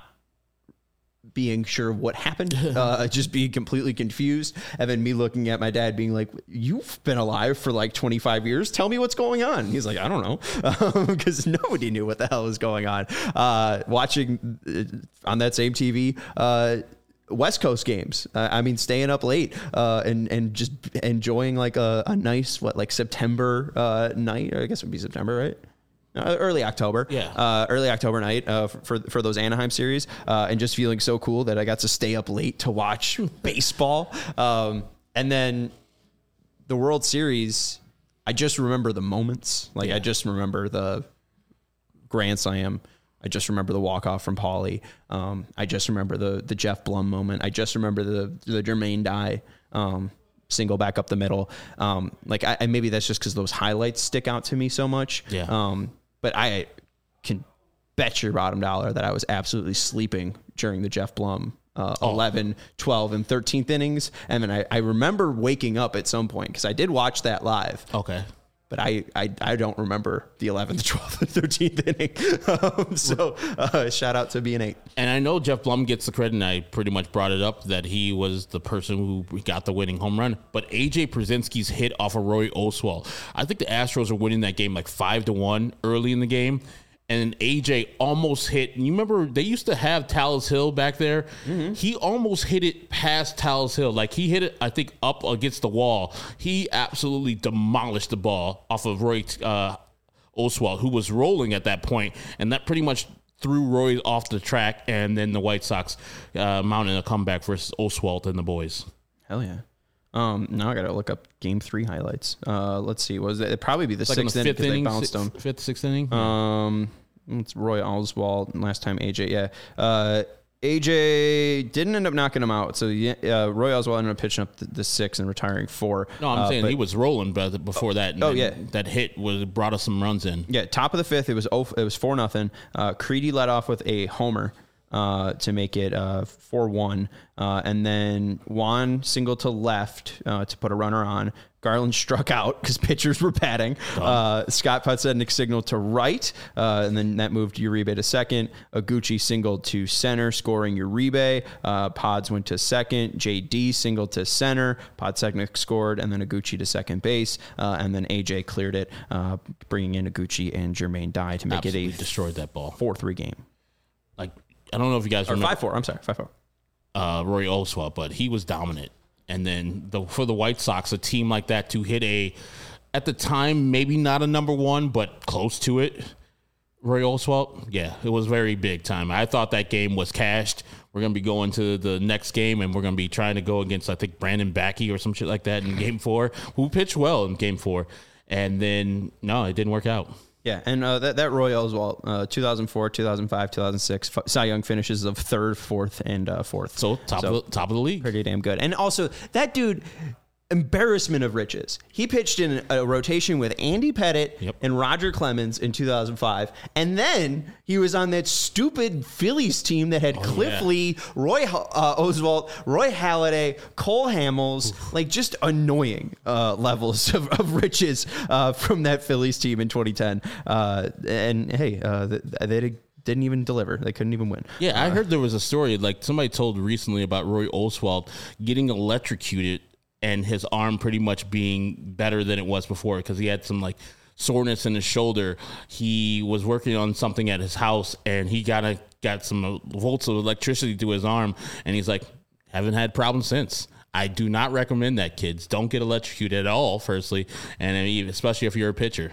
being sure what happened, uh, just being completely confused. And then me looking at my dad being like, you've been alive for like twenty-five years. Tell me what's going on. He's like, I don't know. Because um, nobody knew what the hell was going on. Uh, watching uh, on that same T V, uh, West Coast games. Uh, I mean, staying up late uh, and and just enjoying like a, a nice, what, like September uh, night. I guess it would be September, right? Uh, early October, yeah. Uh, early October night uh, for for those Anaheim series, uh, and just feeling so cool that I got to stay up late to watch baseball. Um, and then the World Series, I just remember the moments. Like yeah. I just remember the grand slam. I just remember the walk off from Paulie. Um, I just remember the the Jeff Blum moment. I just remember the the Jermaine Dye Um, single back up the middle. Um, like I, I maybe that's just because those highlights stick out to me so much. Yeah. Um, but I can bet your bottom dollar that I was absolutely sleeping during the Jeff Blum uh, oh. eleven, twelve, and thirteenth innings. And then I, I remember waking up at some point because I did watch that live. Okay. But I, I, I don't remember the eleventh, twelfth, and thirteenth inning. Um, so uh, shout out to being eight. And I know Jeff Blum gets the credit, and I pretty much brought it up that he was the person who got the winning home run. But A J Pierzynski's hit off of Roy Oswalt. I think the Astros are winning that game like five to one early in the game. And A J almost hit. And you remember they used to have Talus Hill back there. Mm-hmm. He almost hit it past Talus Hill. Like he hit it, I think, up against the wall. He absolutely demolished the ball off of Roy uh, Oswalt, who was rolling at that point, and that pretty much threw Roy off the track. And then the White Sox uh, mounted a comeback versus Oswalt and the boys. Hell yeah. Um, now I got to look up game three highlights. Uh, let's see. Was it? It'd probably be the it's sixth like in the inning fifth because they inning, bounced si- them. Fifth, sixth inning. Um, it's Roy Oswalt. Last time A J. Yeah. Uh, A J didn't end up knocking him out. So yeah, uh, Roy Oswalt ended up pitching up the, the six and retiring four. No, I'm uh, saying but, he was rolling before that. And oh yeah, that hit was brought us some runs in. Yeah, top of the fifth. It was oh, it was four nothing. Uh, Creedy led off with a homer uh, to make it uh, four one, uh, and then Juan singled to left uh, to put a runner on. Garland struck out because pitchers were batting. Uh, Scott Podsednik signaled to right, uh, and then that moved Uribe to second. Aguchi singled to center, scoring Uribe. Uh, Pods went to second. J D singled to center. Podsednik scored, and then Aguchi to second base. Uh, and then A J cleared it, uh, bringing in Aguchi and Jermaine Dye to make Absolutely it a destroyed that ball. four three game. Like, I don't know if you guys or remember. five four, I'm sorry, five four. Uh, Roy Oswalt, but he was dominant. And then the, for the White Sox, a team like that to hit a, at the time, maybe not a number one, but close to it. Roy Oswalt, yeah, it was very big time. I thought that game was cashed. We're going to be going to the next game, and we're going to be trying to go against, I think, Brandon Backey or some shit like that in game four, who pitched well in game four. And then, no, it didn't work out. Yeah, and uh, that, that Roy Oswalt, uh, two thousand four, two thousand five, two thousand six, Cy Young finishes of third, fourth, and uh, fourth. So top, so, of the, top of the league. Pretty damn good. And also, that dude... embarrassment of riches. He pitched in a rotation with Andy Pettitte yep. and Roger Clemens in two thousand five. And then he was on that stupid Phillies team that had oh, Cliff yeah. Lee, Roy uh, Oswalt, Roy Halladay, Cole Hamels, Oof. like just annoying uh, levels of, of riches uh, from that Phillies team in twenty ten. Uh, and hey, uh, they did didn't even deliver. They couldn't even win. Yeah, uh, I heard there was a story, like somebody told recently about Roy Oswalt getting electrocuted and his arm pretty much being better than it was before because he had some like soreness in his shoulder. He was working on something at his house and he got a, got some volts of electricity to his arm, and he's like, haven't had problems since. I do not recommend that, kids. Don't get electrocuted at all, firstly, and I mean, especially if you're a pitcher.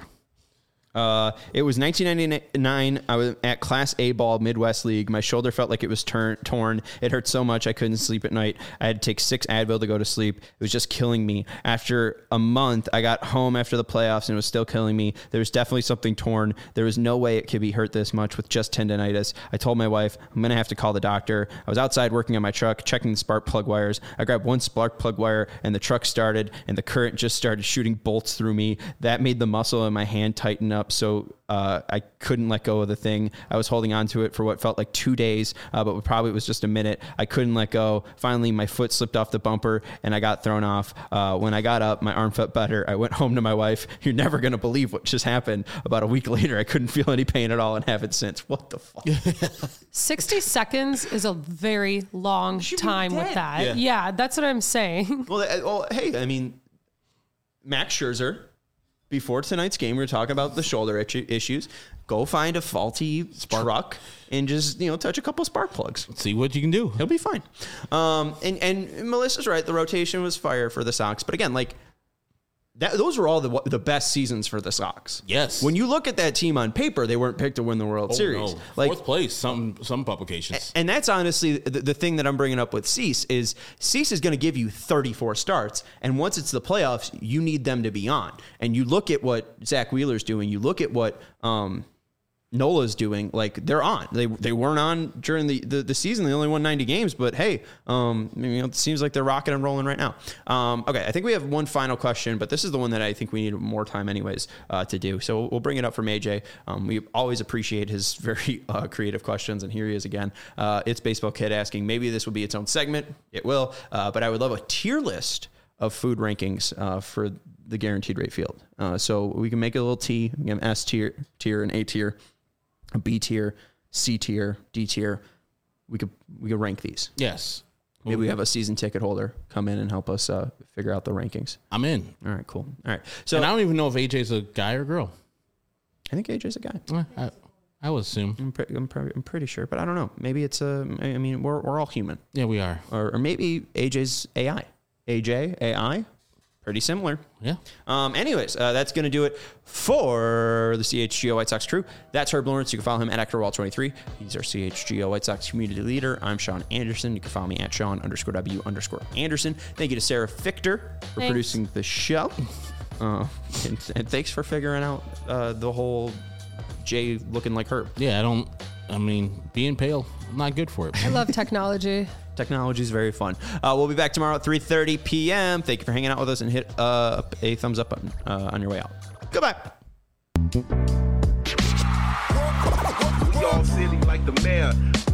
Uh, it was nineteen ninety-nine. I was at Class A ball, Midwest League. My shoulder felt like it was turn, torn. It hurt so much I couldn't sleep at night. I had to take six Advil to go to sleep. It was just killing me. After a month, I got home after the playoffs and it was still killing me. There was definitely something torn. There was no way it could be hurt this much with just tendonitis. I told my wife, I'm going to have to call the doctor. I was outside working on my truck, checking the spark plug wires. I grabbed one spark plug wire and the truck started and the current just started shooting bolts through me. That made the muscle in my hand tighten up. So uh, I couldn't let go of the thing. I was holding on to it for what felt like two days, uh, but probably it was just a minute. I couldn't let go. Finally, my foot slipped off the bumper and I got thrown off. Uh, when I got up, my arm felt better. I went home to my wife. You're never going to believe what just happened. About a week later, I couldn't feel any pain at all and haven't since. What the fuck? sixty seconds is a very long time with that. Yeah. yeah, that's what I'm saying. Well, well, hey, I mean, Max Scherzer, before tonight's game, we were talking about the shoulder issues. Go find a faulty spark truck and just, you know, touch a couple spark plugs. See what you can do. He'll be fine. Um, and, and Melissa's right. The rotation was fire for the Sox. But again, like, that, those were all the the best seasons for the Sox. Yes. When you look at that team on paper, they weren't picked to win the World oh, Series. No. Like, fourth place, some some publications. And that's honestly the, the thing that I'm bringing up with Cease is Cease is going to give you thirty-four starts. And once it's the playoffs, you need them to be on. And you look at what Zach Wheeler's doing. You look at what um, Nola's doing. Like, they're on. They they weren't on during the, the, the season. They only won ninety games. But, hey, um, you know, it seems like they're rocking and rolling right now. Um, okay, I think we have one final question, but this is the one that I think we need more time anyways uh, to do. So we'll bring it up from A J. Um, we always appreciate his very uh, creative questions, and here he is again. Uh, it's Baseball Kid asking, maybe this will be its own segment. It will. Uh, but I would love a tier list of food rankings uh, for the Guaranteed Rate Field. Uh, so we can make a little T, we can have S tier, tier, and A tier. A B tier, C tier, D tier. We could we could rank these. Yes. Maybe we have a season ticket holder come in and help us uh, figure out the rankings. I'm in. All right, cool. All right. So and I don't even know if A J's a guy or girl. I think A J's a guy. I, I would assume. I'm, pre- I'm, pre- I'm pretty sure, but I don't know. Maybe it's a. I mean, we're we're all human. Yeah, we are. Or, or maybe A J's A I. A J A I. Pretty similar. Yeah. Um, anyways, uh, that's going to do it for the C H G O White Sox crew. That's Herb Lawrence. You can follow him at Actor Wall twenty-three. He's our C H G O White Sox community leader. I'm Sean Anderson. You can follow me at Sean underscore W underscore Anderson. Thank you to Sarah Fichter for thanks. producing the show. Uh, and, and thanks for figuring out uh, the whole Jay looking like Herb. Yeah, I don't, I mean, being pale, I'm not good for it. I love technology. Technology is very fun. Uh, we'll be back tomorrow at three thirty p.m. Thank you for hanging out with us, and hit uh, a thumbs up button uh, on your way out. Goodbye. We all silly like the mayor.